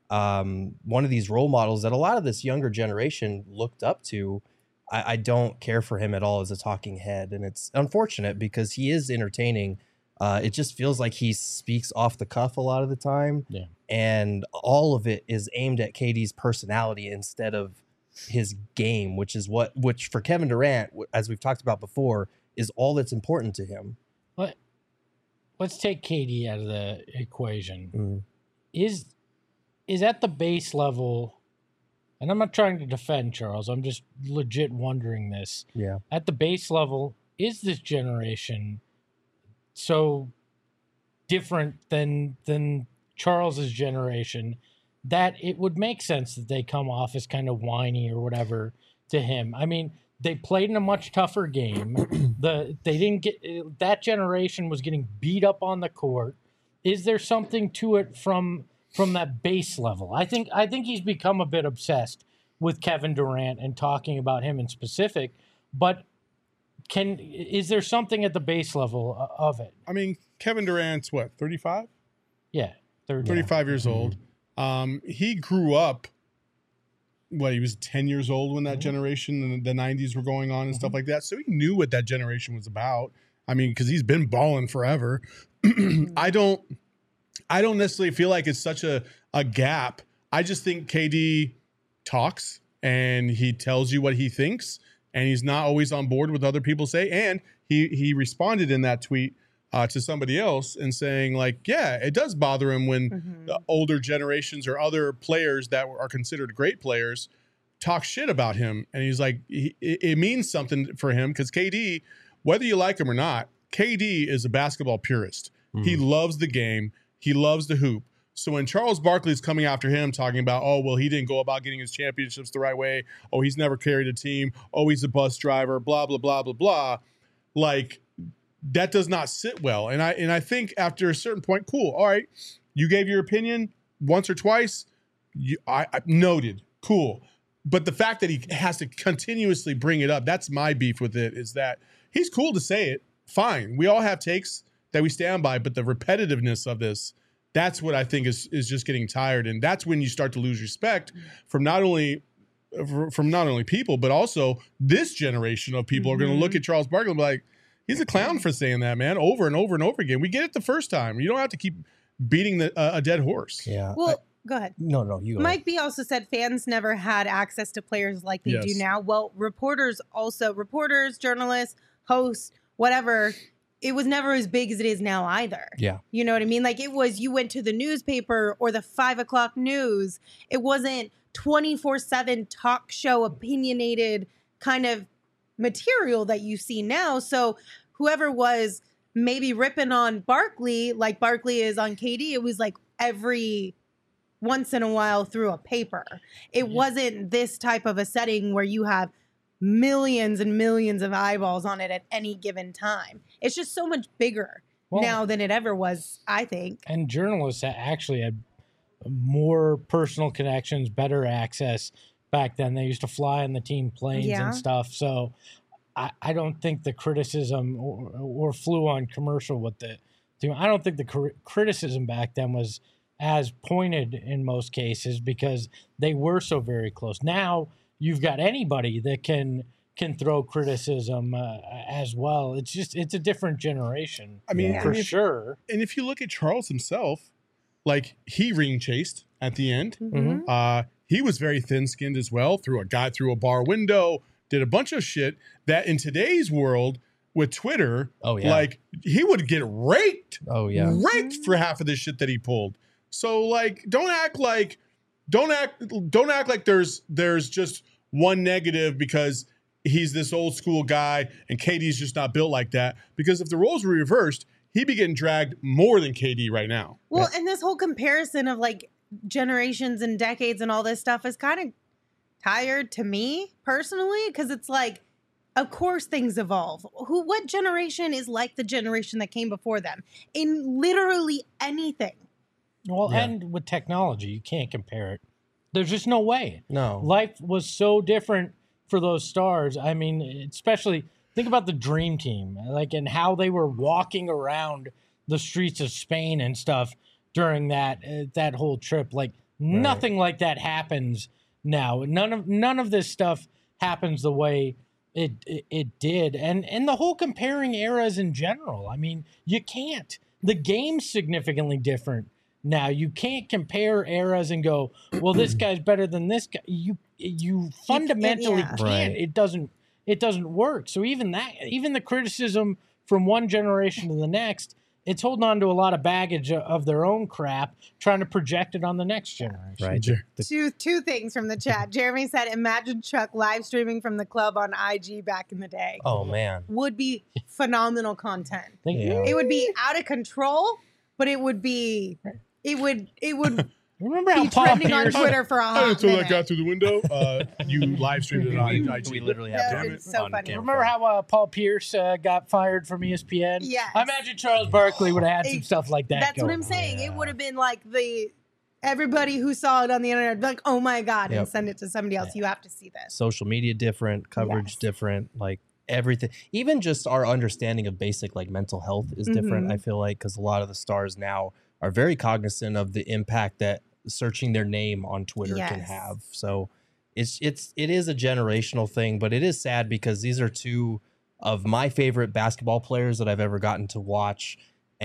um, one of these role models that a lot of this younger generation looked up to, I, I don't care for him at all as a talking head. And it's unfortunate because he is entertaining. Uh, it just feels like he speaks off the cuff a lot of the time. Yeah. And all of it is aimed at K D's personality instead of his game, which is what, which for Kevin Durant, as we've talked about before, is all that's important to him. Let, let's take K D out of the equation. Mm. Is is at the base level, and I'm not trying to defend Charles, I'm just legit wondering this. Yeah. At the base level, is this generation so different than than Charles's generation that it would make sense that they come off as kind of whiny or whatever to him? I mean, they played in a much tougher game. the they didn't get that generation was getting beat up on the court. Is there something to it from from that base level? I think I think he's become a bit obsessed with Kevin Durant and talking about him in specific, but can is there something at the base level o- of it? I mean, Kevin Durant's what, thirty-five? Yeah, thirty. thirty-five years old. Um, he grew up, what, he was ten years old when that generation in the nineties were going on and stuff like that. So he knew what that generation was about. I mean, because he's been balling forever. I don't I don't necessarily feel like it's such a, a gap. I just think K D talks and he tells you what he thinks, and he's not always on board with other people say. And he he responded in that tweet uh, to somebody else and saying like, yeah, it does bother him when Mhm. the older generations or other players that are considered great players talk shit about him. And he's like, he, it it means something for him because K D, whether you like him or not, K D is a basketball purist. He loves the game. He loves the hoop. So when Charles Barkley's coming after him, talking about, oh, well, he didn't go about getting his championships the right way. Oh, he's never carried a team. Oh, he's a bus driver, blah, blah, blah, blah, blah. Like, that does not sit well. And I and I think after a certain point, cool, all right, you gave your opinion once or twice. You, I, I noted, cool. But the fact that he has to continuously bring it up, that's my beef with it, is that he's cool to say it. Fine. We all have takes that we stand by, but the repetitiveness of this, that's what I think is is just getting tired. And that's when you start to lose respect from not only from not only people, but also this generation of people mm-hmm. are going to look at Charles Barkley and be like, he's a clown for saying that, man, over and over and over again. We get it the first time. You don't have to keep beating the, uh, a dead horse. Yeah. Well, I, go ahead. No, no, you go Mike ahead. B also said fans never had access to players like they Yes. do now. Well, reporters also, reporters, journalists, hosts, whatever, it was never as big as it is now either. Yeah. You know what I mean? Like it was, you went to the newspaper or the five o'clock news. It wasn't twenty-four seven talk show opinionated kind of material that you see now. So whoever was maybe ripping on Barkley, like Barkley is on K D, it was like every once in a while through a paper. It wasn't this type of a setting where you have millions and millions of eyeballs on it at any given time. It's just so much bigger well, now than it ever was, I think. And journalists actually had more personal connections, better access back then. They used to fly in the team planes Yeah. and stuff. So I, I don't think the criticism or, or flew on commercial with the team. I don't think the cr- criticism back then was as pointed in most cases because they were so very close. Now you've got anybody that can can throw criticism uh, as well. It's just it's a different generation. I mean, for and if, sure. And if you look at Charles himself, like he ring chased at the end. Mm-hmm. Uh, he was very thin skinned as well. Threw a guy through a bar window. Did a bunch of shit that in today's world with Twitter, oh yeah, like he would get raked. Oh yeah, raked for half of the shit that he pulled. So like, don't act like, don't act, don't act like there's there's just one negative because he's this old school guy and K D's just not built like that. Because if the roles were reversed, he'd be getting dragged more than K D right now. Well, and this whole comparison of like generations and decades and all this stuff is kind of tired to me personally, because it's like, of course things evolve. Who, what generation is like the generation that came before them in literally anything? Well, Yeah. and with technology, you can't compare it. There's just no way. no, Life was so different for those stars. I mean, especially think about the Dream Team, like, and how they were walking around the streets of Spain and stuff during that uh, that whole trip. Like nothing like that happens now. None of none of this stuff happens the way it, it it did, and and the whole comparing eras in general. I mean, you can't. The game's significantly different now. You can't compare eras and go, well, this guy's better than this guy. You you fundamentally yeah. can't. Right. It doesn't it doesn't work. So even that, even the criticism from one generation to the next, it's holding on to a lot of baggage of- of their own crap, trying to project it on the next generation. right. Jer- The- Two two things from the chat. Jeremy said, imagine Chuck live streaming from the club on I G back in the day. oh man, Would be phenomenal content. Think- Yeah. It would be out of control, but it would be it would it would Remember how be Paul trending on Pierce? Twitter for a I hot didn't throw that minute. guy through the window. Uh, you live streamed it on we, I G. we literally have That to is so on funny. camera. Remember how uh, Paul Pierce uh, got fired from E S P N? Yes. I imagine Charles Barkley would have had some It- stuff like that. That's what going I'm saying. on. It would have been like the everybody who saw it on the internet, like, oh my God, and Yep. send it to somebody else. You have to see this. social media different, coverage Yes. different, like everything. Even just our understanding of basic like mental health is different. Mhm. I feel like because a lot of the stars now are very cognizant of the impact that searching their name on Twitter can Yes. have. So it's it's it is a generational thing, but it is sad because these are two of my favorite basketball players that I've ever gotten to watch,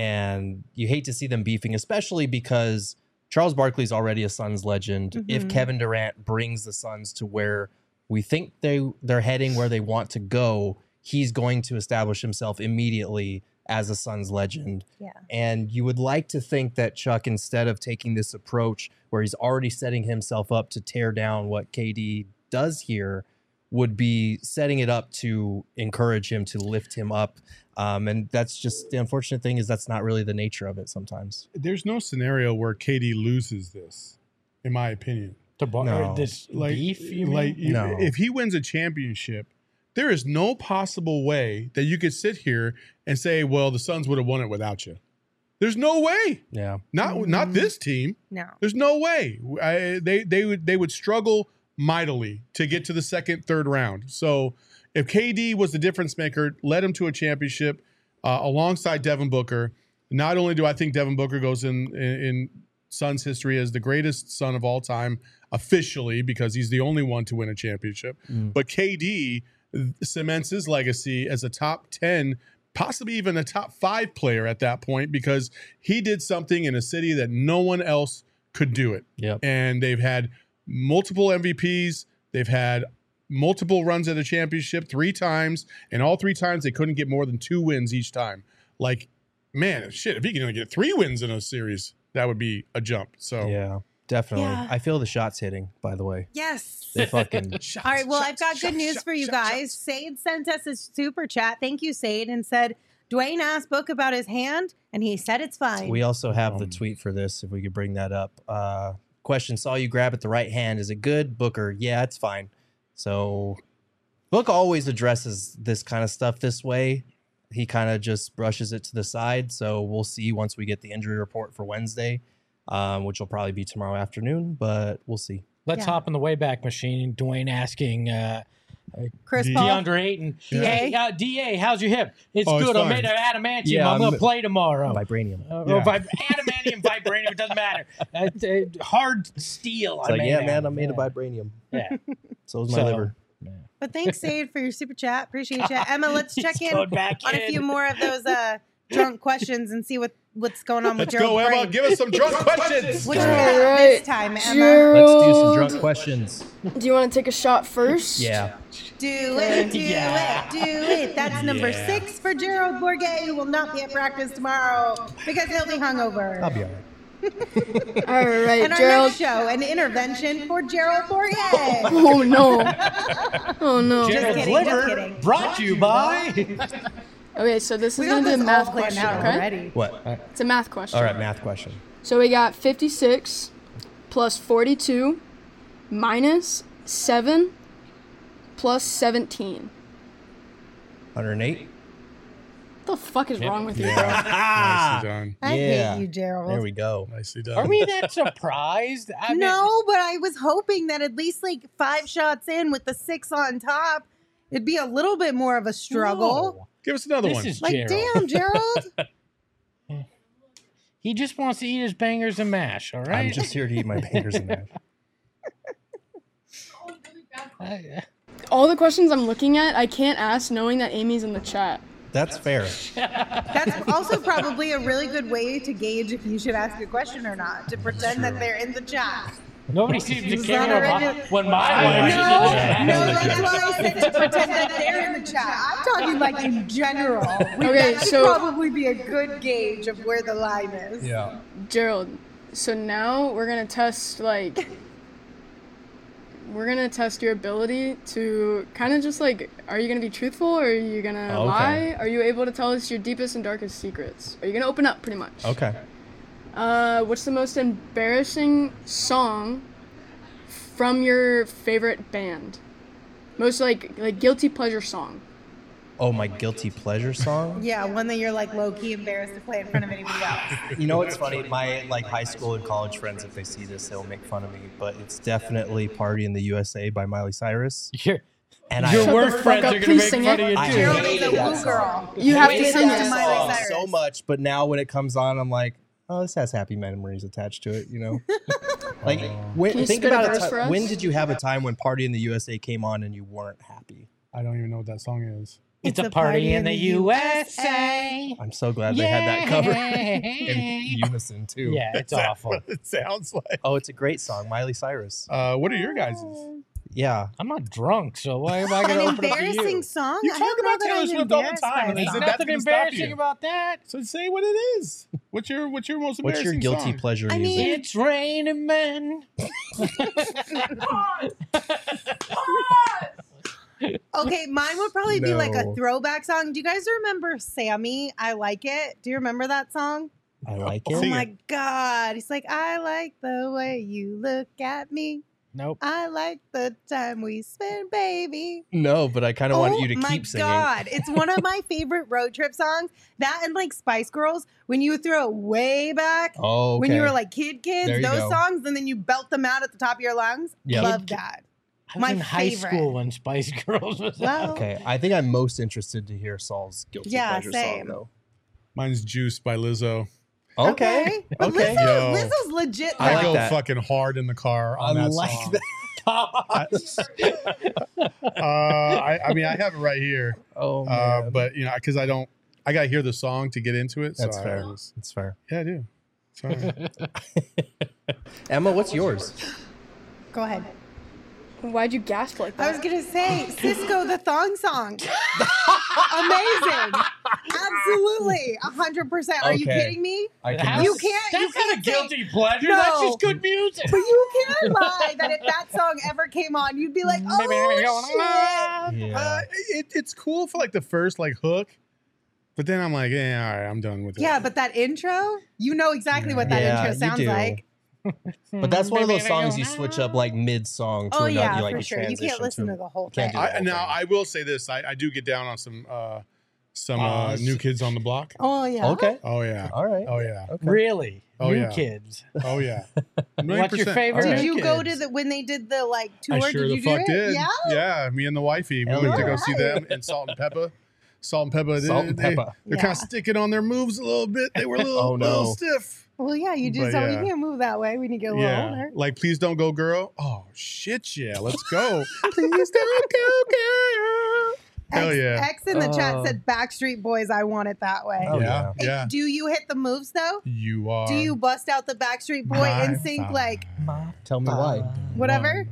and you hate to see them beefing, especially because Charles Barkley's already a Suns legend. If Mhm. Kevin Durant brings the Suns to where we think they they're heading, where they want to go, he's going to establish himself immediately as a Suns legend. Yeah. And you would like to think that Chuck, instead of taking this approach where he's already setting himself up to tear down what K D does here, would be setting it up to encourage him, to lift him up. Um, and that's just the unfortunate thing, is that's not really the nature of it sometimes. There's no scenario where K D loses this, in my opinion. The bar- No. this Like, beef, you like mean? you- No. if he wins a championship, there is no possible way that you could sit here and say, well, the Suns would have won it without you. There's no way. Yeah. Not mm-hmm. not this team. No. There's no way. I, they they would they would struggle mightily to get to the second, third round. So if K D was the difference maker, led him to a championship uh, alongside Devin Booker, not only do I think Devin Booker goes in, in in Suns history as the greatest Sun of all time officially because he's the only one to win a championship, mm. but K D cements his legacy as a top ten, possibly even a top five player at that point because he did something in a city that no one else could do it. Yep. And they've had multiple M V Ps. They've had multiple runs at a championship three times, and all three times they couldn't get more than two wins each time. Like, man, shit, if he can only get three wins in a series, that would be a jump. So yeah, definitely. Yeah. I feel the shots hitting, by the way. Yes. They fucking shots, All right, well, shots, I've got shots, good news shots, for you shots, guys. shots. Sade sent us a super chat. Thank you, Sade, and said, Dwayne asked Book about his hand, and he said it's fine. We also have the Um, tweet for this, if we could bring that up. Uh, question, saw you grab at the right hand. Is it good? Booker, yeah, it's fine. So Book always addresses this kind of stuff this way. He kind of just brushes it to the side. So we'll see once we get the injury report for Wednesday, um, which will probably be tomorrow afternoon, but we'll see. Let's Yeah. hop in the Wayback Machine. Dwayne asking uh, Chris D- Paul. DeAndre Ayton, D A? hey, uh, D A, how's your hip? It's Oh, it's good. I'm fine. made of adamantium. Yeah, I'm going to I'm- play tomorrow. Vibranium. Uh, Yeah. or vib- adamantium, vibranium, it doesn't matter. Uh, uh, hard steel. It's I like, made yeah, out man, of. I'm made of Yeah. vibranium. Yeah. So is my So, liver. But thanks, Sade, for your super chat. Appreciate you. Emma, let's check He's in going back on a in. few more of those uh, drunk questions and see what, what's going on with Let's Gerald's go, Emma. brain. Give us some drunk questions. What you All got right. this time, Emma? Gerald, Let's do some drunk questions. do you want to take a shot first? Yeah. Do it, do Yeah. it, do it. That's number Yeah. six for Gerald Bourget, who will not be at practice tomorrow because he'll be hungover. I'll be all right. All right, And our Gerald. next show, an intervention for Gerald Bourget. Oh no. Oh no. Gerald's kidding, just liver kidding. brought to you by. Okay, so this We is got gonna be a this math all planned question, out okay? already. What? It's a math question. All right, math question. So we got fifty-six plus forty-two minus seven plus seventeen. one hundred eight. What the fuck is wrong with you, bro? Nicely done. I Yeah. hate you, Gerald. There we go. Nicely done. Are we that surprised? I mean, No, but I was hoping that at least like five shots in with the six on top, it'd be a little bit more of a struggle. no. Give us another This one. is Like, Gerald. damn, Gerald. He just wants to eat his bangers and mash, all right? I'm just here to eat my bangers and mash. I- All the questions I'm looking at, I can't ask knowing that Amy's in the chat. That's fair. That's also probably a really good way to gauge if you should ask a question or not, to pretend that they're in the chat. Nobody seems to It's care not a about regular- when my wife No, is in the chat. no, that's why I said to pretend that they're in the chat. I'm talking like in general. We, Okay, that could so- probably be a good gauge of where the line is. Yeah. Gerald, so now we're gonna test like we're gonna test your ability to kind of just like, are you gonna be truthful or are you gonna Okay. lie? Are you able to tell us your deepest and darkest secrets? Are you gonna open up pretty much? Okay. Uh, what's the most embarrassing song from your favorite band? Most like like guilty pleasure song. Oh, my guilty pleasure song? Yeah, one that you're like low key embarrassed to play in front of anybody else. You know what's funny? My like high school and college friends, if they see this, they'll make fun of me. But it's definitely "Party in the U S A" by Miley Cyrus. Your, And your I, worst fuck friends up, are going to please make sing fun it. of you, I too. Gerald hated is a that blue song. girl. You have to Hated sing that it. Miley song Cyrus. so much, but now when it comes on, I'm like, oh, this has happy memories attached to it. You know, like when, Can you think spit a about verse it. for us? When did you have a time when "Party in the U S A" came on and you weren't happy? I don't even know what that song is. It's a party in the U S A. I'm so glad they had that cover in Yeah. unison too. Yeah, it's awful. What it sounds like. Oh, it's a great song, Miley Cyrus. Uh, what are your guys'? Yeah. I'm not drunk, so why am I going to An open up to embarrassing you? song? You I talk don't know about that Taylor I'm Swift all the embarrassed time, by and that. is There's it that nothing didn't stop embarrassing you? about that. So say what it is. What's your what's your most What's embarrassing your guilty song? pleasure I music? mean- It's raining men. Okay, mine would probably be like a No. throwback song. Do you guys remember Sammy? I Like It. Do you remember that song? I like Oh it. Sing my it. God. He's like, I like the way you look at me. Nope. I like the time we spend, baby. No, but I kind of want you to my keep singing. God. It's one of my favorite road trip songs. That and like Spice Girls, when you throw it way back, Oh, okay. when you were like kid kids, There you those go. songs, and then you belt them out at the top of your lungs. Yep. Love that. I was My in high favorite. school when Spice Girls was out. Well, Okay, I think I'm most interested to hear Saul's guilty Yeah, pleasure same. song though. Mine's Juice by Lizzo. Okay, But okay. Lizzo, Yo. Lizzo's legit. I I, like go that. fucking hard in the car on I that like song. that. uh, I, I mean, I have it right here, Oh uh, man, but you know, because I don't, I gotta hear the song to get into it. that's so I fair. was- That's fair. yeah, I do. Sorry. Emma, what's yours? Go ahead. Why'd you gasp like I that? was gonna say Cisco the thong song. Amazing. Absolutely. A hundred percent. Are you Okay. kidding me? I How- can You can't- That's you not can't a say- guilty pleasure. No. That's just good music. But you can't lie that if that song ever came on, you'd be like, oh shit. Yeah. Uh, it, it's cool for like the first like hook, but then I'm like, yeah, all right, I'm done with it. Yeah, but that intro, you know exactly what that Yeah, intro you sounds do. like. But that's one of those songs you switch up like mid song to Oh another. yeah, you like for you sure. You transition can't listen to, to the whole can't thing. do that. I, whole now thing. I will say this: I, I do get down on some uh, some uh, Uh, new kids on the block. Oh yeah. Okay. Oh yeah. All right. Oh yeah. Okay. Really? Oh, New yeah. kids. Oh yeah. What's your one hundred percent. favorite All right. Did new you go to kids? the when they did the like tour? I sure did the you fuck do it? did. Yeah. Yeah, me and the wifey. We Hell went to yeah. go see them and Salt and Pepper. Salt and Pepper. Salt they, and they- Pepper. They're Yeah. kind of sticking on their moves a little bit. They were a little, Oh, no. little stiff. Well, yeah, you just But, don't. yeah. You can't move that way when you get a little Yeah. older. Like, please don't go, girl. Oh shit, yeah. Let's go. Please don't go, girl. Hell X, yeah. X in the chat Oh. said Backstreet Boys. I want it that way. Oh, yeah. Hey, Yeah. Do you hit the moves though? You are. Do you bust out the Backstreet Boy my and sync fire. like Tell me why. whatever?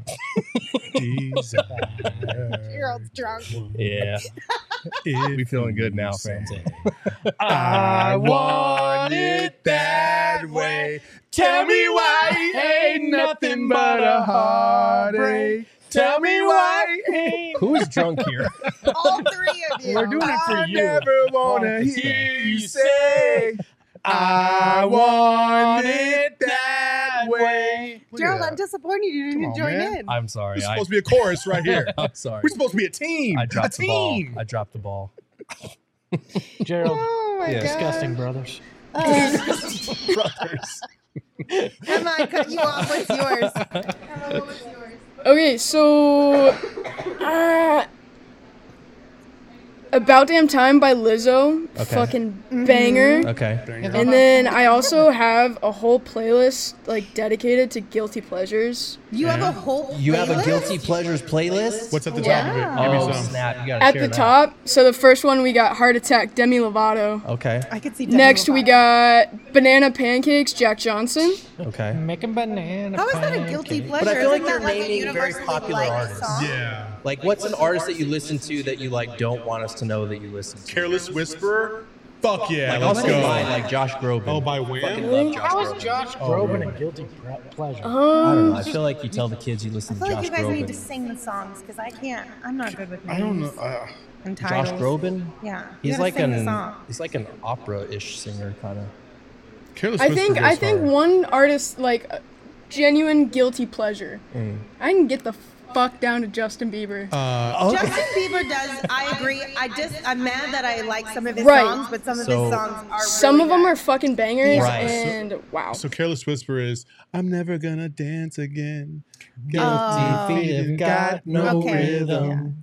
Desire. Gerald's drunk. Yeah. If We feeling good now, you fans. say, I want it that way. Tell me why ain't nothing but a heartache. Tell me why ain't. Who's drunk here? All three of you. We're doing it for I you. never wanna hear you say, I want it that way. Look at Gerald, that. I'm disappointed you didn't Come on, join man. in. I'm sorry. We're I, supposed to be a chorus right here. I'm sorry. We're supposed to be a team. I dropped a the ball. team. I dropped the ball. Gerald, Oh my Yeah. god. disgusting brothers. Uh, Brothers. Emma, I cut you off. What's yours? Emma, what's yours? Okay, so uh, About Damn Time by Lizzo, Okay. fucking Mm-hmm. banger. Okay. And then I also have a whole playlist like dedicated to guilty pleasures. You have a whole You have a playlist? guilty pleasures playlist? What's at the Yeah. top of it? Give Oh, me some. snap. You gotta At share the that. top, so the first one we got Heart Attack, Demi Lovato. Okay. I could see. Demi Next we Lovato. got Banana Pancakes, Jack Johnson. Okay. Making banana. How is that a guilty pancakes. pleasure? But I feel like Isn't you're that like a naming very universally popular liked artists. song? Yeah. Like, what's an artist that you listen to that you like don't want us to know that you listen to? Careless Whisperer. Fuck yeah. Like, let's also go. mine, like Josh Groban. Oh, by Fucking Wham? love Josh How is Groban. Josh Groban a guilty pre- pleasure? I don't know. I Um, feel like you tell the kids you I listen to feel like Josh you guys Groban. need to sing the songs because I can't. I'm not good with names. I don't know. Uh, And Josh titles. Groban? Yeah. you He's gotta like sing the an song. he's like an opera-ish singer kind of. Careless I Whisper think goes I think hard. one artist like uh, genuine guilty pleasure. Mm. I can get the fuck down to Justin Bieber. Uh, Justin Bieber does. I agree. I just I'm mad that I like some of his Right. songs, but some of So- his songs are. Some really of them good. are fucking bangers, Right. and wow. so Careless Whisper is, I'm never gonna dance again. Oh. feet have got no Okay, rhythm.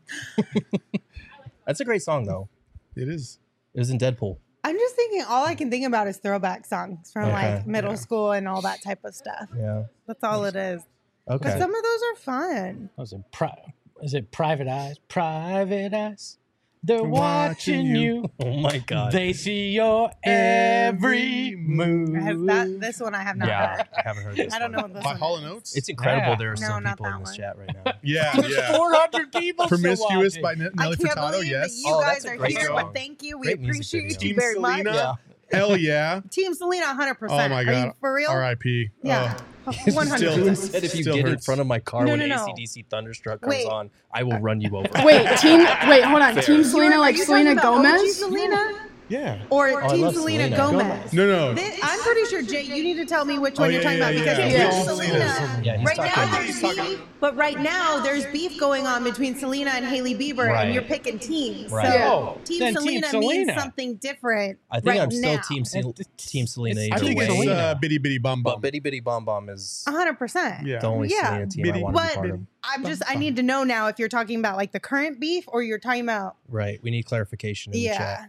That's a great song though. It is. It was in Deadpool. I'm just thinking. All I can think about is throwback songs from Okay. like middle school and all that type of stuff. Yeah. That's all it is. But Okay. some of those are fun. Was it pri- Is it Private Eyes? Private Eyes. They're Watching watching you. you. Oh my god. They see your every move. I have that. This one I have not yeah, heard. I haven't heard this. I don't know one. what this By one Hall is. and Oates? It's incredible. Yeah. There are No, some not people in that this one. chat right now. Yeah, There's yeah. four hundred people still Promiscuous watching. by Ne- I Nelly can't Furtado, believe yes. that you Oh, guys that's a are great here, song. but thank you. We Great music appreciate video. you Team very much. Selena? Yeah. Hell yeah. Team Selena, one hundred percent. Oh my Are you god. for real? R I P. Yeah. Oh. one hundred Still- percent. Said if you Still get in hurts. front of my car No, when no, no. A C D C Thunderstruck comes Wait. on, I will run you over. Wait, team. Wait, hold on. Fair. Team Selena, Are like you Selena talking about O G Gomez. Selena? Yeah. or Oh, I Team love Selena, Selena. Gomez? No, no. This, I'm pretty sure, Jay, you need to tell me which one Oh, you're yeah, talking yeah, about because yeah. Team Yeah. Selena. Yeah, he's right talking now, about- there's he's talking- beef, but right now there's beef going on between Selena and Hailey Bieber, Right. and you're picking teams. Right. So Yeah. Oh, Team then Team Selena, Selena. means something different. I think right I'm still now. team Sel- It's- team Selena it's- I either think way. it's Selena. uh, Bitty Bitty Bum Bum. But Bitty Bitty Bomb Bomb is A hundred percent. Yeah. the only Yeah. Selena team I Bitty- want to be But part of. I'm just, I need to know now if you're talking about like the current beef or you're talking about, Right. We need clarification in the yeah. chat.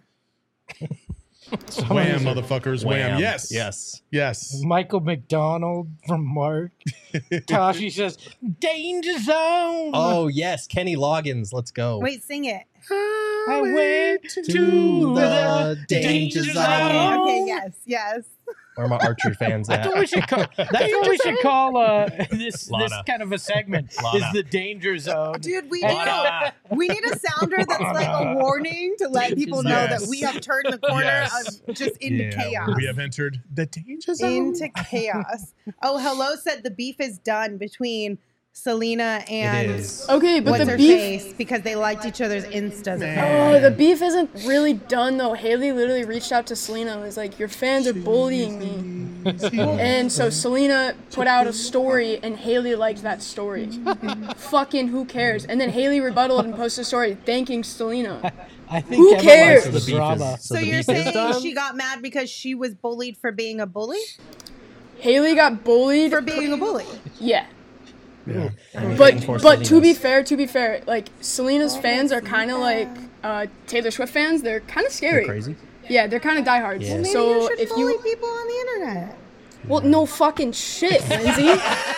Wham, motherfuckers. Wham. Yes. Yes. Yes. Michael McDonald from Mark. Tashi says, Danger Zone. Oh yes, Kenny Loggins. Let's go. Wait, sing it. I went to, to the the danger danger zone. zone. Okay, yes, yes. Where are my Archer fans That's at? what we should call. That's what we should call uh, this this Lana. kind of a segment. Lana. Is the danger zone. Dude, we need a, we need a sounder that's like a warning to let people know Yes. that we have turned the corner Yes. of just into Yeah, chaos. We have entered the danger zone. Into chaos. Oh, hello said the beef is done between Selena and It is. Okay, but what's the her beef. face because they liked each other's instas. Oh, the beef isn't really done though. Haley literally reached out to Selena and was like, "Your fans are bullying me," and so Selena put out a story, and Haley liked that story. Fucking who cares? And then Haley rebutted and posted a story thanking Selena. I think Who Emma cares? likes So the the beef drama. is So, so the you're beef is saying done? she got mad because she was bullied for being a bully? Haley got bullied For being a bully. Yeah. Yeah. But for but to be Selena's. fair, to be fair, like Selena's fans are kind of like uh, Taylor Swift fans. They're kind of scary. They're crazy. Yeah, they're kind of diehards. Yeah. Maybe So you should if bully you people on the internet. well, no fucking shit, Lindsay.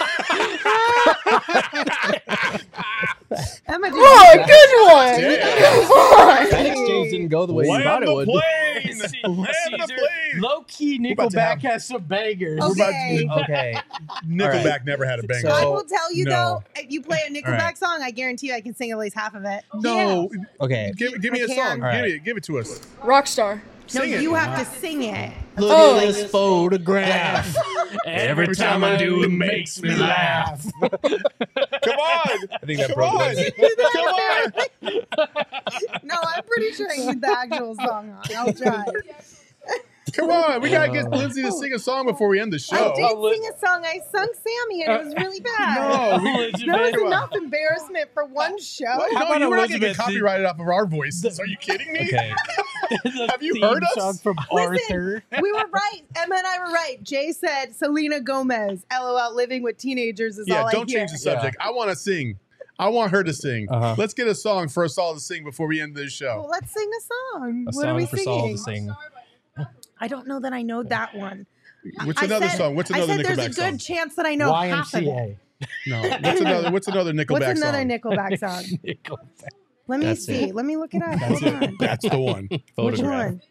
Emma, did Oh, a good one. Come on. That exchange didn't go the way you Land thought it the would. plane. Land the plane. Low key, about to Nickelback have- has some bangers. Okay. Okay. Nickelback Alright. never had a banger. I So- will tell you no. though, if you play a Nickelback Alright. song, I guarantee you I can sing at least half of it. no. Okay. Give, give me I a can. song. Give Alright. it. Give it to us. Rockstar. No, Sing it. you have to sing it. Look Oh. at this photograph. Every time I do, it makes me laugh. Come on. I think that Come broke on. Lindsay. Come on. No, I'm pretty sure I need the actual song on. I'll try. Come on. We gotta get Lindsay to sing a song before we end the I show. did sing a song. I sung Sammy, and it was really bad. No, we, Elizabeth, That was enough embarrassment for one show. What? How No, about you were not getting Elizabeth? copyrighted off of our voices. Are you kidding me? Okay. Have you Theme heard us? song from Listen, Arthur. we were right. Emma and I were right. Jay said Selena Gomez. LOL. Living with teenagers is Yeah, all don't I hear. change the subject. I want to sing. I want her to sing. Uh-huh. Let's get a song for us all to sing before we end this show. Well, let's sing a song. A what are song we for singing? Saul to sing. I don't know that I know that one. What's I another said- song? What's I another said there's a Nickelback good song? chance that I know Y M half of C it. A. No. What's another? What's another Nickelback What's another song? Nickelback song? Nickelback. Let me That's see. it. Let me look it up. That's Hold it. on. That's the one. Which Photograph. one?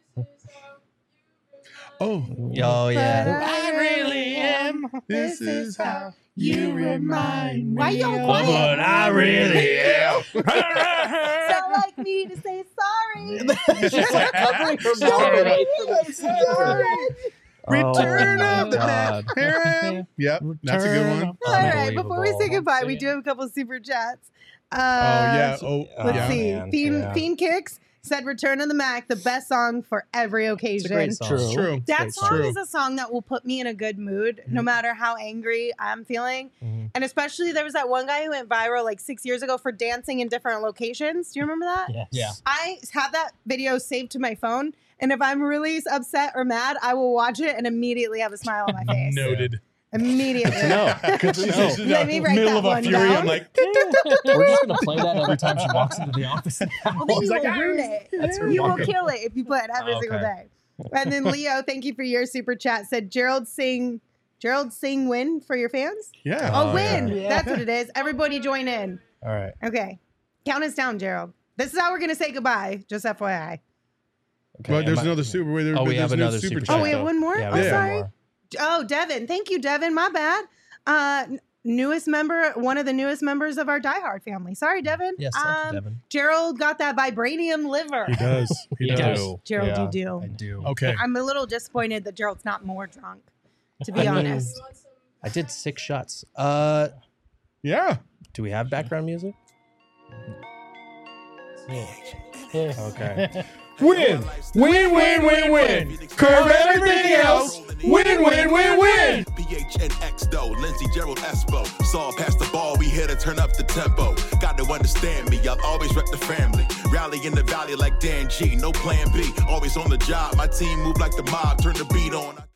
Oh, Oh yeah. I really am. this is how You remind me. Why y'all of quiet? what I really am. Sound like me to say sorry. She's like covering her mouth away from I'm sorry. Return Oh, of the God. Mac. Yep, that's a good one. Return All right, before we say Unbelievable. goodbye, we do have a couple super chats. Uh, Oh yeah. Oh Let's yeah. see. man, Fiend, yeah. Fiend Kicks said Return of the Mac, the best song for every It's a occasion. great song. True. It's true. That It's song true. is a song that will put me in a good mood no matter how angry I'm feeling. Mhm. And especially there was that one guy who went viral like six years ago for dancing in different locations. Do you remember that? Yes. Yeah. I have that video saved to my phone. And if I'm really upset or mad, I will watch it and immediately have a smile on my face. Noted. Immediately. No. Good to know. Let me write Middle that of a one fury. down. I'm like, We're just gonna play that every time she walks into the office. Well, then you like, will "Ah." ruin it. That's her You will walking. kill it if you play it every Oh, single okay. day. And then Leo, thank you for your super chat. Said Gerald sing, Gerald sing win for your fans. yeah. Oh, Oh, win! yeah. That's what it is. Everybody join in. All right. Okay, count us down, Gerald. This is how we're gonna say goodbye. Just F Y I. Okay. But there's am I- another super. Wait, there, Oh, we there's have no another super super chat. Oh, we have though. one more. Yeah, oh, we have sorry. one more. Oh, Devin. Thank you, Devin. My bad. Uh, n- newest member, one of the newest members of our Die Hard family. Sorry, Devin. Yes, thank um, you, Devin. Gerald got that vibranium liver. He does. He He does. does. Gerald, Yeah, you do. I do. Okay. I'm a little disappointed that Gerald's not more drunk, to be I mean, honest. I did six shots. Uh, Yeah. do we have background music? Yeah. Okay. Win. Win, win, win, win. Curve everything else. Win, win, win, win. P H N X though, Lindsey, Gerald, Espo. Saw past the ball, we here to turn up the tempo. Got to understand me, I'll always rep the family. Rally in the valley like Dan G, no plan B. Always on the job, my team move like the mob, turn the beat on.